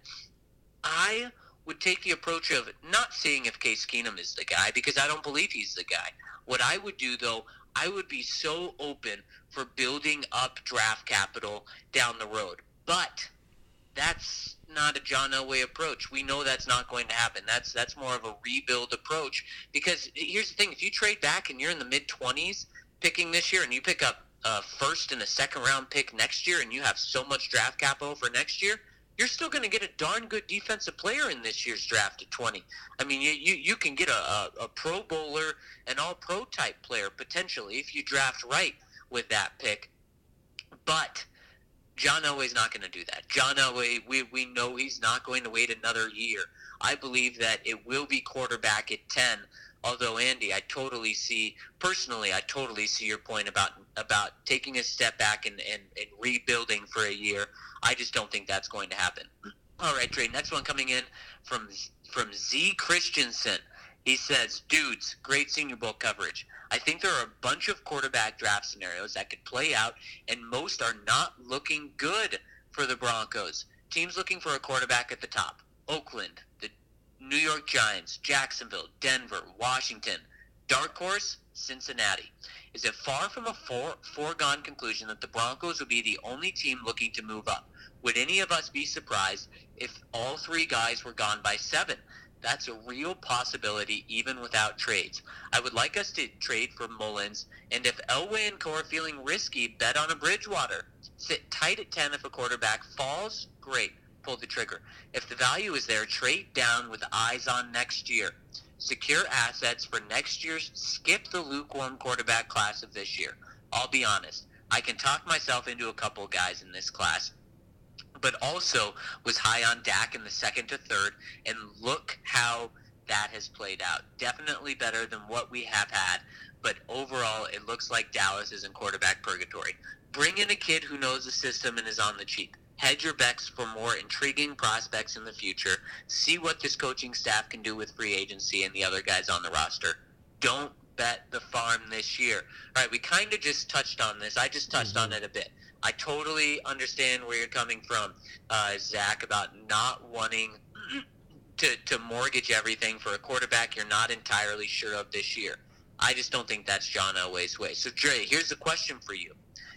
I would take the approach of not seeing if Case Keenum is the guy, because I don't believe he's the guy. What I would do, though, I would be so open for building up draft capital down the road. But that's not a John Elway approach. We know that's not going to happen. That's that's more of a rebuild approach, because here's the thing. If you trade back and you're in the mid-twenties picking this year and you pick up a first and a second round pick next year and you have so much draft capital for next year, you're still going to get a darn good defensive player in this year's draft at twenty. I mean, you you, you can get a, a, a Pro Bowler, an all-pro type player potentially if you draft right with that pick. But John Elway's not going to do that. John Elway, we, we know he's not going to wait another year. I believe that it will be quarterback at ten. Although, Andy, I totally see, personally, I totally see your point about about taking a step back and, and, and rebuilding for a year. I just don't think that's going to happen. All right, Trey, next one coming in from from Z Christensen. He says, dudes, great Senior Bowl coverage. I think there are a bunch of quarterback draft scenarios that could play out, and most are not looking good for the Broncos. Teams looking for a quarterback at the top: Oakland, the New York Giants, Jacksonville, Denver, Washington. Dark horse, Cincinnati. Is it far from a fore, foregone conclusion that the Broncos will be the only team looking to move up? Would any of us be surprised if all three guys were gone by seven? That's a real possibility even without trades. I would like us to trade for Mullins, and if Elway and co are feeling risky, bet on a Bridgewater. Sit tight at ten if a quarterback falls, great. Pull the trigger. If the value is there, trade down with eyes on next year. Secure assets for next year's, skip the lukewarm quarterback class of this year. I'll be honest, I can talk myself into a couple guys in this class, but also was high on Dak in the second to third, and look how that has played out. Definitely better than what we have had, but overall it looks like Dallas is in quarterback purgatory. Bring in a kid who knows the system and is on the cheap. Hedge your bets for more intriguing prospects in the future. See what this coaching staff can do with free agency and the other guys on the roster. Don't bet the farm this year. All right, we kind of just touched on this. I just touched mm-hmm. on it a bit. I totally understand where you're coming from, uh, Zach, about not wanting to, to mortgage everything for a quarterback you're not entirely sure of this year. I just don't think that's John Elway's way. So, Dre, here's the question for you.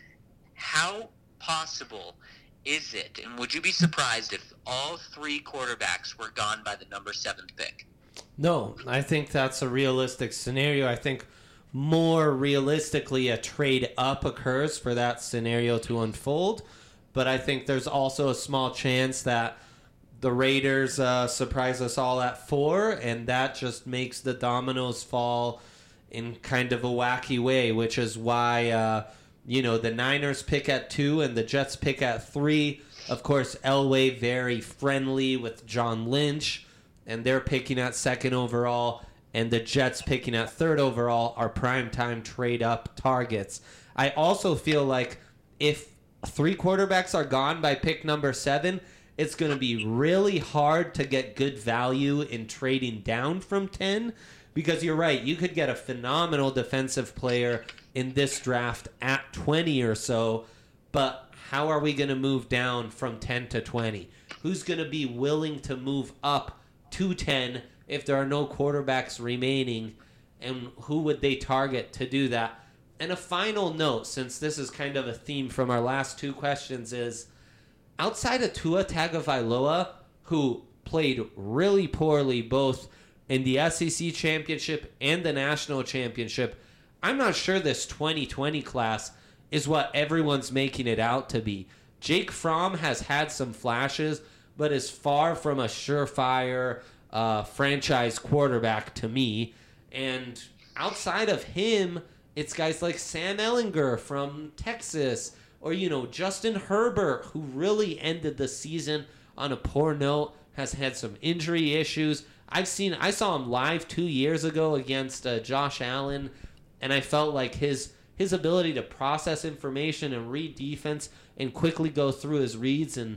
How possible is it, and would you be surprised if all three quarterbacks were gone by the number seventh pick? No, I think that's a realistic scenario. I think more realistically a trade up occurs for that scenario to unfold, but I think there's also a small chance that the Raiders uh, surprise us all at four, and that just makes the dominoes fall in kind of a wacky way, which is why uh, you know, the Niners pick at two and the Jets pick at three. Of course, Elway very friendly with John Lynch, and they're picking at second overall, and the Jets picking at third overall are primetime trade-up targets. I also feel like if three quarterbacks are gone by pick number seven, it's going to be really hard to get good value in trading down from ten, because you're right, you could get a phenomenal defensive player in this draft at twenty or so, but how are we going to move down from ten to twenty? Who's going to be willing to move up to ten if there are no quarterbacks remaining, and who would they target to do that? And a final note, since this is kind of a theme from our last two questions, is outside of Tua Tagovailoa, who played really poorly both in the S E C championship and the national championship, I'm not sure this twenty twenty class is what everyone's making it out to be. Jake Fromm has had some flashes, but is far from a surefire uh, franchise quarterback to me. And outside of him, it's guys like Sam Ehlinger from Texas, or, you know, Justin Herbert, who really ended the season on a poor note, has had some injury issues. I've seen, I saw him live two years ago against uh, Josh Allen, and I felt like his his ability to process information and read defense and quickly go through his reads and,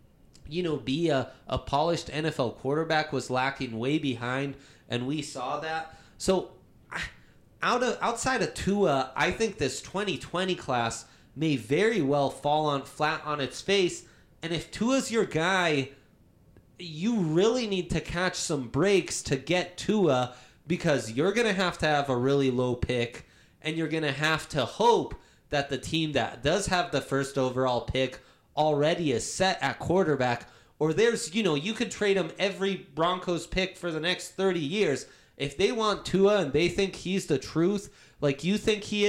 you know, be a, a polished N F L quarterback was lacking way behind, and we saw that. So out of outside of Tua, I think this twenty twenty class may very well fall on flat on its face, and if Tua's your guy, you really need to catch some breaks to get Tua, because you're going to have to have a really low pick, and you're going to have to hope that the team that does have the first overall pick already is set at quarterback, or there's, you know, you could trade them every Broncos pick for the next thirty years. If they want Tua and they think he's the truth, like you think he is,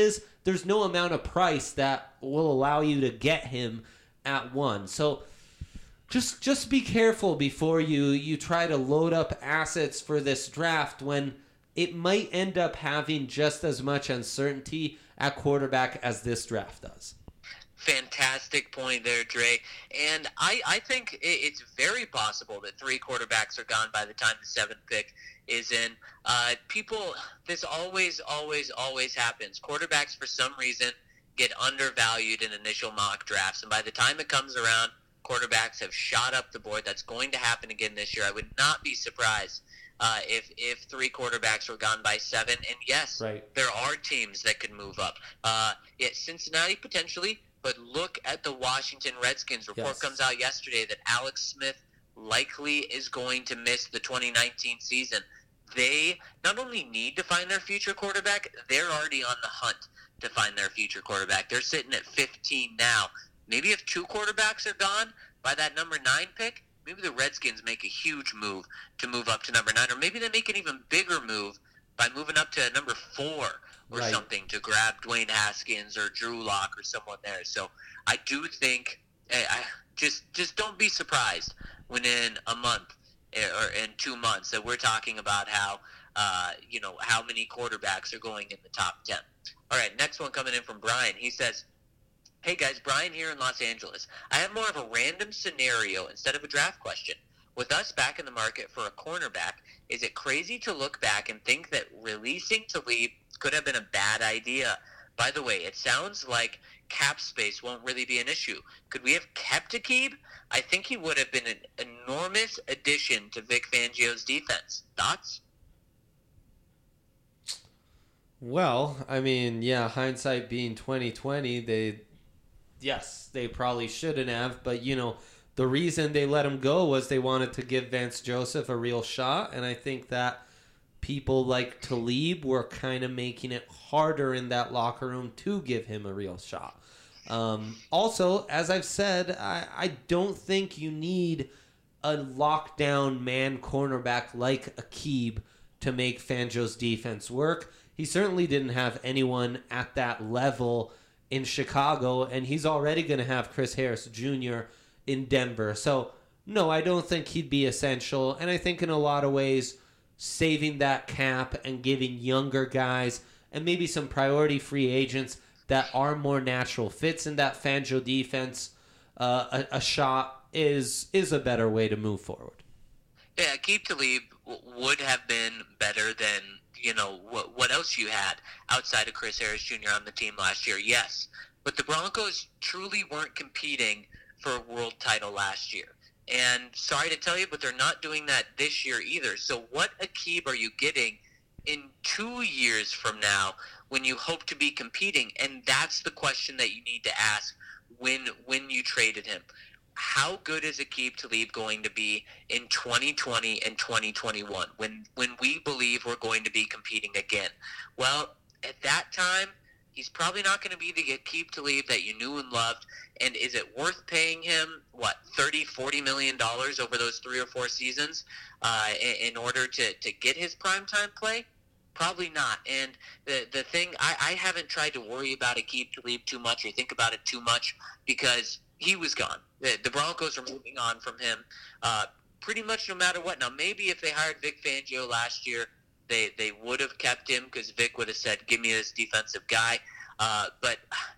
there's no amount of price that will allow you to get him at one. So just just be careful before you, you try to load up assets for this draft when it might end up having just as much uncertainty at quarterback as this draft does. Fantastic point there, Dre. And I, I think it's very possible that three quarterbacks are gone by the time the seventh pick is in. Uh, people, this always, always, always happens. Quarterbacks, for some reason, get undervalued in initial mock drafts. And by the time it comes around, quarterbacks have shot up the board. That's going to happen again this year. I would not be surprised uh, if if three quarterbacks were gone by seven. And yes, right. there are teams that could move up. Uh, yeah, Cincinnati potentially. But look at the Washington Redskins. Report yes. comes out yesterday that Alex Smith likely is going to miss the twenty nineteen season. They not only need to find their future quarterback, they're already on the hunt to find their future quarterback. They're sitting at fifteen now. Maybe if two quarterbacks are gone by that number nine pick, maybe the Redskins make a huge move to move up to number nine. Or maybe they make an even bigger move by moving up to number four or right. something to grab Dwayne Haskins or Drew Lock or someone there. So I do think I, I just just don't be surprised when in a month or in two months that we're talking about how uh, you know how many quarterbacks are going in the top ten. All right, next one coming in from Brian. He says, "Hey guys, Brian here in Los Angeles. I have more of a random scenario instead of a draft question. With us back in the market for a cornerback, is it crazy to look back and think that releasing Talib could have been a bad idea? By the way, it sounds like cap space won't really be an issue. Could we have kept Aqib? I think he would have been an enormous addition to Vic Fangio's defense. Thoughts?" Well, I mean, yeah, hindsight being twenty twenty, they, yes, they probably shouldn't have, but you know, the reason they let him go was they wanted to give Vance Joseph a real shot, and I think that people like Talib were kind of making it harder in that locker room to give him a real shot. Um, also, as I've said, I, I don't think you need a lockdown man cornerback like Aqib to make Fangio's defense work. He certainly didn't have anyone at that level in Chicago, and he's already going to have Chris Harris Junior in Denver. So, no, I don't think he'd be essential. And I think in a lot of ways, saving that cap and giving younger guys and maybe some priority free agents that are more natural fits in that Fangio defense uh, a, a shot is is a better way to move forward. Yeah, Aqib Talib w- would have been better than, you know, what, what else you had outside of Chris Harris Junior on the team last year. Yes, but the Broncos truly weren't competing for a world title last year. And sorry to tell you, but they're not doing that this year either. So what Aqib are you getting in two years from now when you hope to be competing? And that's the question that you need to ask when when you traded him. How good is Aqib Talib going to be in twenty twenty and twenty twenty-one when, when we believe we're going to be competing again? Well, at that time, he's probably not going to be the Aqib Talib that you knew and loved. And is it worth paying him, what, thirty, forty million dollars over those three or four seasons uh, in, in order to, to get his primetime play? Probably not. And the the thing, I, I haven't tried to worry about Aqib Talib too much or think about it too much because he was gone. The, the Broncos are moving on from him uh, pretty much no matter what. Now, maybe if they hired Vic Fangio last year, they, they would have kept him because Vic would have said, give me this defensive guy. Uh, but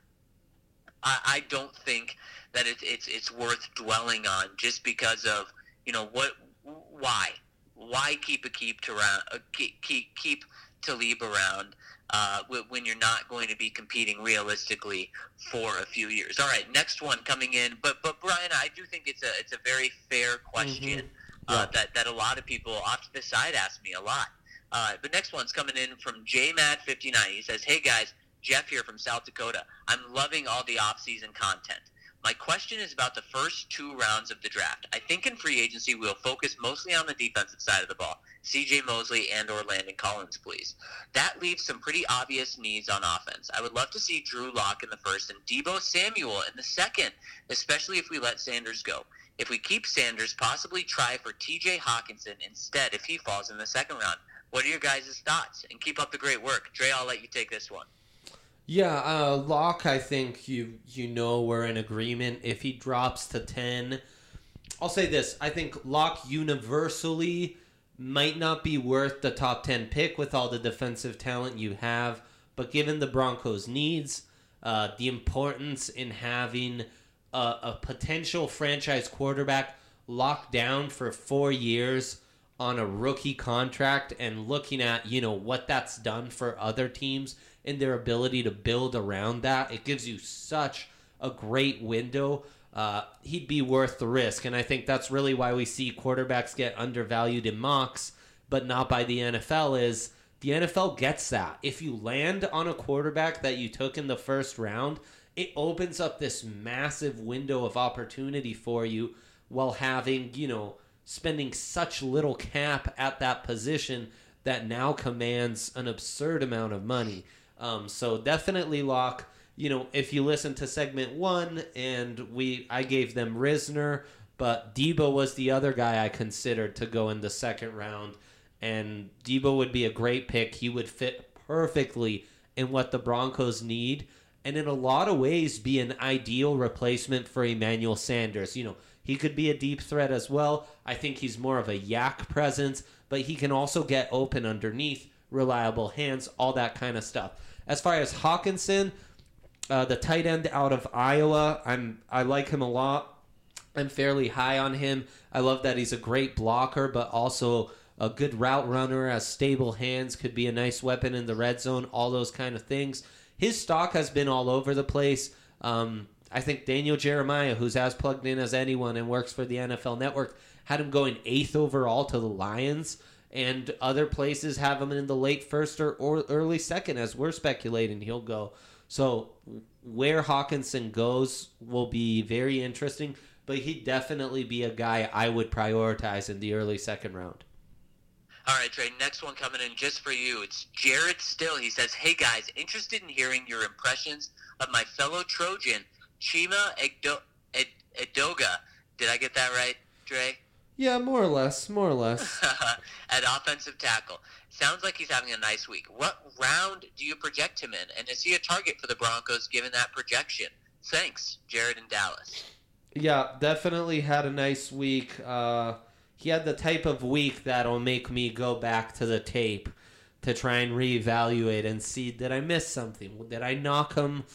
I, I don't think that it, it's it's worth dwelling on just because of, you know, what, why? Why keep Aqib to around, uh, keep, keep, keep Talib around uh, when you're not going to be competing realistically for a few years? All right, next one coming in. But but Brian, I do think it's a it's a very fair question mm-hmm. yeah. uh, that, that a lot of people off to the side ask me a lot. Uh, the next one's coming in from J Mad fifty-nine. He says, hey guys, Jeff here from South Dakota. I'm loving all the off-season content. My question is about the first two rounds of the draft. I think in free agency we'll focus mostly on the defensive side of the ball. C J Mosley and or Landon Collins, please. That leaves some pretty obvious needs on offense. I would love to see Drew Lock in the first and Deebo Samuel in the second, especially if we let Sanders go. If we keep Sanders, possibly try for T J Hawkinson instead if he falls in the second round. What are your guys' thoughts? And keep up the great work. Dre, I'll let you take this one. Yeah, uh, Locke, I think you you know we're in agreement. If he drops to ten, I'll say this. I think Locke universally might not be worth the top ten pick with all the defensive talent you have, but given the Broncos' needs, uh, the importance in having a, a potential franchise quarterback locked down for four years on a rookie contract and looking at, you know, what that's done for other teams and their ability to build around that, it gives you such a great window. Uh, he'd be worth the risk, and I think that's really why we see quarterbacks get undervalued in mocks, but not by the N F L, is the N F L gets that. If you land on a quarterback that you took in the first round, it opens up this massive window of opportunity for you while having, you know, spending such little cap at that position that now commands an absurd amount of money. Um, so definitely Locke. You know, if you listen to segment one, and we, I gave them Risner, but Debo was the other guy I considered to go in the second round, and Debo would be a great pick. He would fit perfectly in what the Broncos need, and in a lot of ways be an ideal replacement for Emmanuel Sanders. You know, he could be a deep threat as well. I think he's more of a yak presence, but he can also get open underneath, reliable hands, all that kind of stuff. As far as Hawkinson, uh, the tight end out of Iowa, I'm I like him a lot. I'm fairly high on him. I love that he's a great blocker, but also a good route runner, has stable hands, could be a nice weapon in the red zone, all those kind of things. His stock has been all over the place. Um, I think Daniel Jeremiah, who's as plugged in as anyone and works for the N F L Network, had him going eighth overall to the Lions, and other places have him in the late first or, or early second, as we're speculating he'll go. So where Hawkinson goes will be very interesting, but he'd definitely be a guy I would prioritize in the early second round. All right, Trey, next one coming in just for you. It's Jared Still. He says, hey, guys, interested in hearing your impressions of my fellow Trojan, Chima Edo- Ed- Edoga. Did I get that right, Trey? Yeah, more or less, more or less. At offensive tackle. Sounds like he's having a nice week. What round do you project him in? And is he a target for the Broncos given that projection? Thanks, Jared in Dallas. Yeah, definitely had a nice week. Uh, he had the type of week that'll make me go back to the tape to try and reevaluate and see, did I miss something? Did I knock him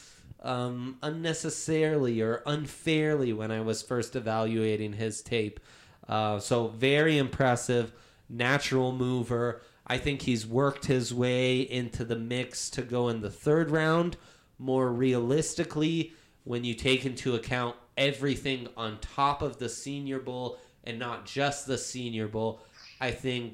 um, unnecessarily or unfairly when I was first evaluating his tape? Uh, so very impressive, natural mover. I think he's worked his way into the mix to go in the third round. More realistically, when you take into account everything on top of the Senior Bowl and not just the Senior Bowl, I think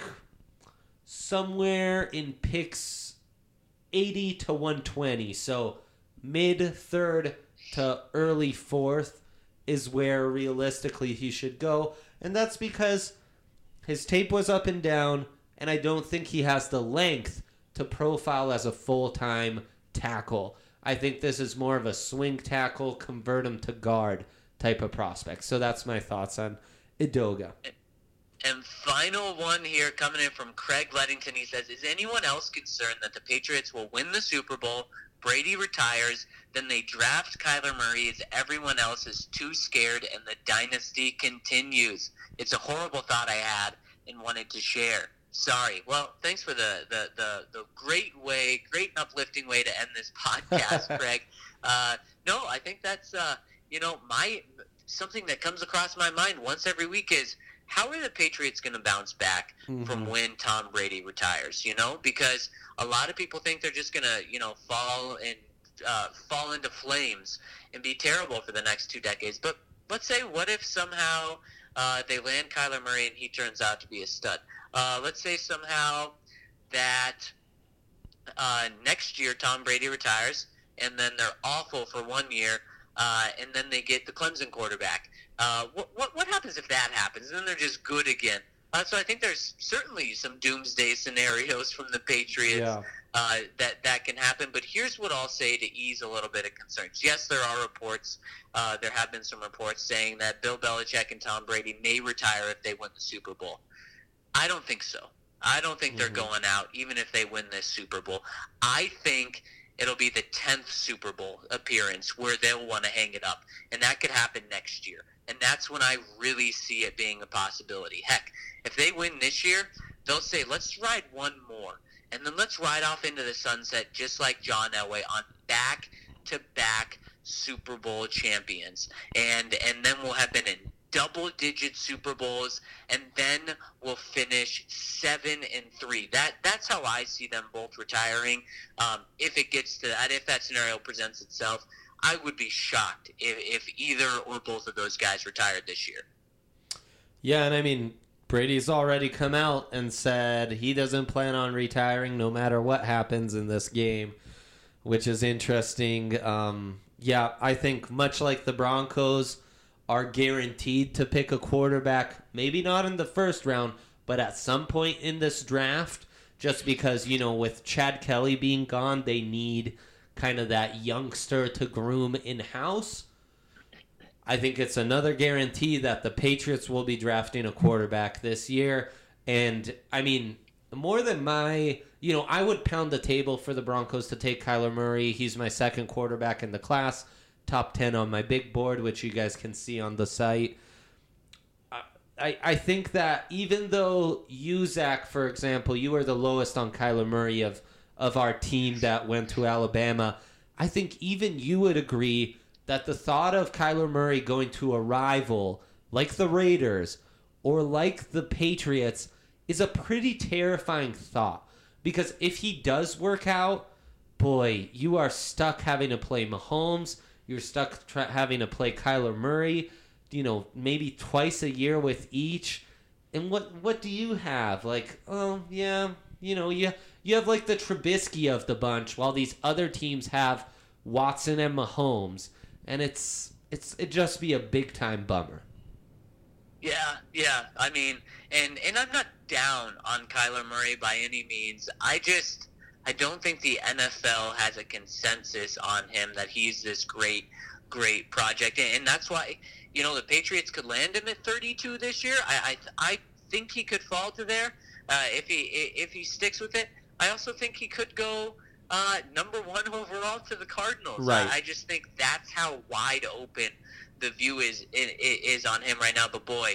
somewhere in picks eighty to one twenty, so mid-third to early fourth is where realistically he should go. And that's because his tape was up and down, and I don't think he has the length to profile as a full-time tackle. I think this is more of a swing tackle, convert him to guard type of prospect. So that's my thoughts on Edoga. And final one here coming in from Craig Leddington. He says, is anyone else concerned that the Patriots will win the Super Bowl, Brady retires, then they draft Kyler Murray as everyone else is too scared and the dynasty continues? It's a horrible thought I had and wanted to share. Sorry. Well, thanks for the, the, the, the great way, great uplifting way to end this podcast, Craig. Uh, no, I think that's, uh, you know, my something that comes across my mind once every week is, how are the Patriots going to bounce back mm-hmm. from when Tom Brady retires, you know? Because a lot of people think they're just going to, you know, fall and uh, fall into flames and be terrible for the next two decades. But let's say, what if somehow uh, they land Kyler Murray and he turns out to be a stud? Uh, let's say somehow that uh, next year Tom Brady retires and then they're awful for one year uh, and then they get the Clemson quarterback. Uh, what, what what happens if that happens? And then they're just good again. Uh, so I think there's certainly some doomsday scenarios from the Patriots yeah. uh, that, that can happen. But here's what I'll say to ease a little bit of concerns. Yes, there are reports. Uh, there have been some reports saying that Bill Belichick and Tom Brady may retire if they win the Super Bowl. I don't think so. I don't think mm-hmm. they're going out even if they win this Super Bowl. I think it'll be the tenth Super Bowl appearance where they'll want to hang it up. And that could happen next year. And that's when I really see it being a possibility. Heck, if they win this year, they'll say, let's ride one more. And then let's ride off into the sunset just like John Elway on back-to-back Super Bowl champions. And and then we'll have been in double-digit Super Bowls, and then we'll finish seven and three. That that's how I see them both retiring. Um, if it gets to that, if that scenario presents itself, I would be shocked if, if either or both of those guys retired this year. Yeah, and I mean, Brady's already come out and said he doesn't plan on retiring no matter what happens in this game, which is interesting. Um, yeah, I think much like the Broncos are guaranteed to pick a quarterback, maybe not in the first round, but at some point in this draft, just because, you know, with Chad Kelly being gone, they need kind of that youngster to groom in-house. I think it's another guarantee that the Patriots will be drafting a quarterback this year. And, I mean, more than my, you know, I would pound the table for the Broncos to take Kyler Murray. He's my second quarterback in the class, top ten on my big board, which you guys can see on the site. I, I think that even though you, Zach, for example, you were the lowest on Kyler Murray of of our team that went to Alabama, I think even you would agree that the thought of Kyler Murray going to a rival like the Raiders or like the Patriots is a pretty terrifying thought. Because if he does work out, boy, you are stuck having to play Mahomes. You're stuck tra- having to play Kyler Murray, you know, maybe twice a year with each. And what what do you have? Like, oh, yeah, you know, you, you have like the Trubisky of the bunch, while these other teams have Watson and Mahomes. And it's it's it just be a big-time bummer. Yeah, yeah. I mean, and, and I'm not down on Kyler Murray by any means. I just... I don't think the N F L has a consensus on him that he's this great, great project. And that's why, you know, the Patriots could land him at thirty-two this year. I I, I think he could fall to there uh, if he if he sticks with it. I also think he could go uh, number one overall to the Cardinals. Right. I, I just think that's how wide open the view is is on him right now. But, boy,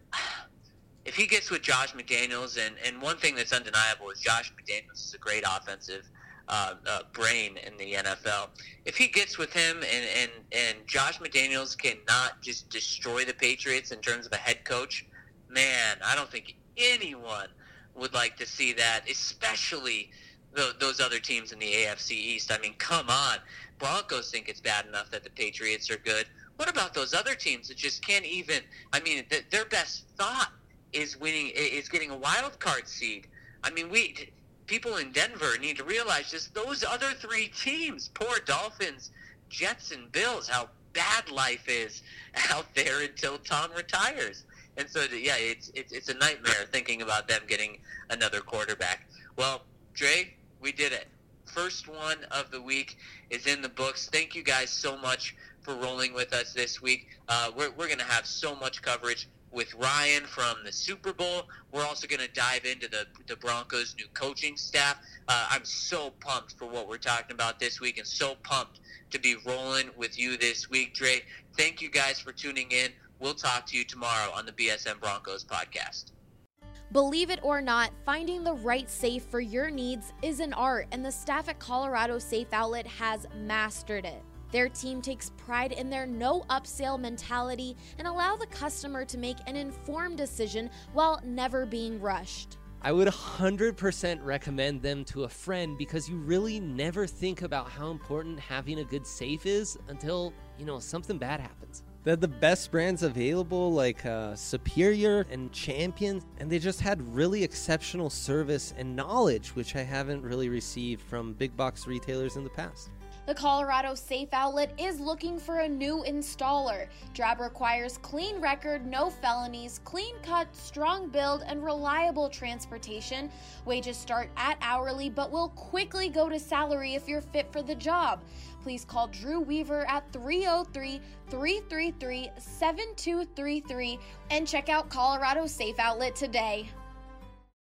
if he gets with Josh McDaniels, and, and one thing that's undeniable is Josh McDaniels is a great offensive uh, uh, brain in the N F L. If he gets with him and, and, and Josh McDaniels cannot just destroy the Patriots in terms of a head coach, man, I don't think anyone would like to see that, especially the, those other teams in the A F C East. I mean, come on. Broncos think it's bad enough that the Patriots are good. What about those other teams that just can't even – I mean, th- their best thought is winning, is getting a wild card seed. I mean, we people in Denver need to realize just those other three teams, poor Dolphins, Jets, and Bills, how bad life is out there until Tom retires. And so, yeah, it's it's it's a nightmare thinking about them getting another quarterback. Well, Dre, we did it. First one of the week is in the books. Thank you guys so much for rolling with us this week. Uh, we're we're going to have so much coverage with Ryan from the Super Bowl. We're also going to dive into the the Broncos' new coaching staff. Uh, I'm so pumped for what we're talking about this week, and so pumped to be rolling with you this week, Dre. Thank you guys for tuning in. We'll talk to you tomorrow on the B S N Broncos podcast. Believe it or not, finding the right safe for your needs is an art, and the staff at Colorado Safe Outlet has mastered it. Their team takes pride in their no upsell mentality and allow the customer to make an informed decision while never being rushed. I would one hundred percent recommend them to a friend, because you really never think about how important having a good safe is until, you know, something bad happens. They had the best brands available, like uh, Superior and Champion, and they just had really exceptional service and knowledge, which I haven't really received from big box retailers in the past. The Colorado Safe Outlet is looking for a new installer. Job requires clean record, no felonies, clean cut, strong build, and reliable transportation. Wages start at hourly, but will quickly go to salary if you're fit for the job. Please call Drew Weaver at three oh three, three three three, seven two three three and check out Colorado Safe Outlet today.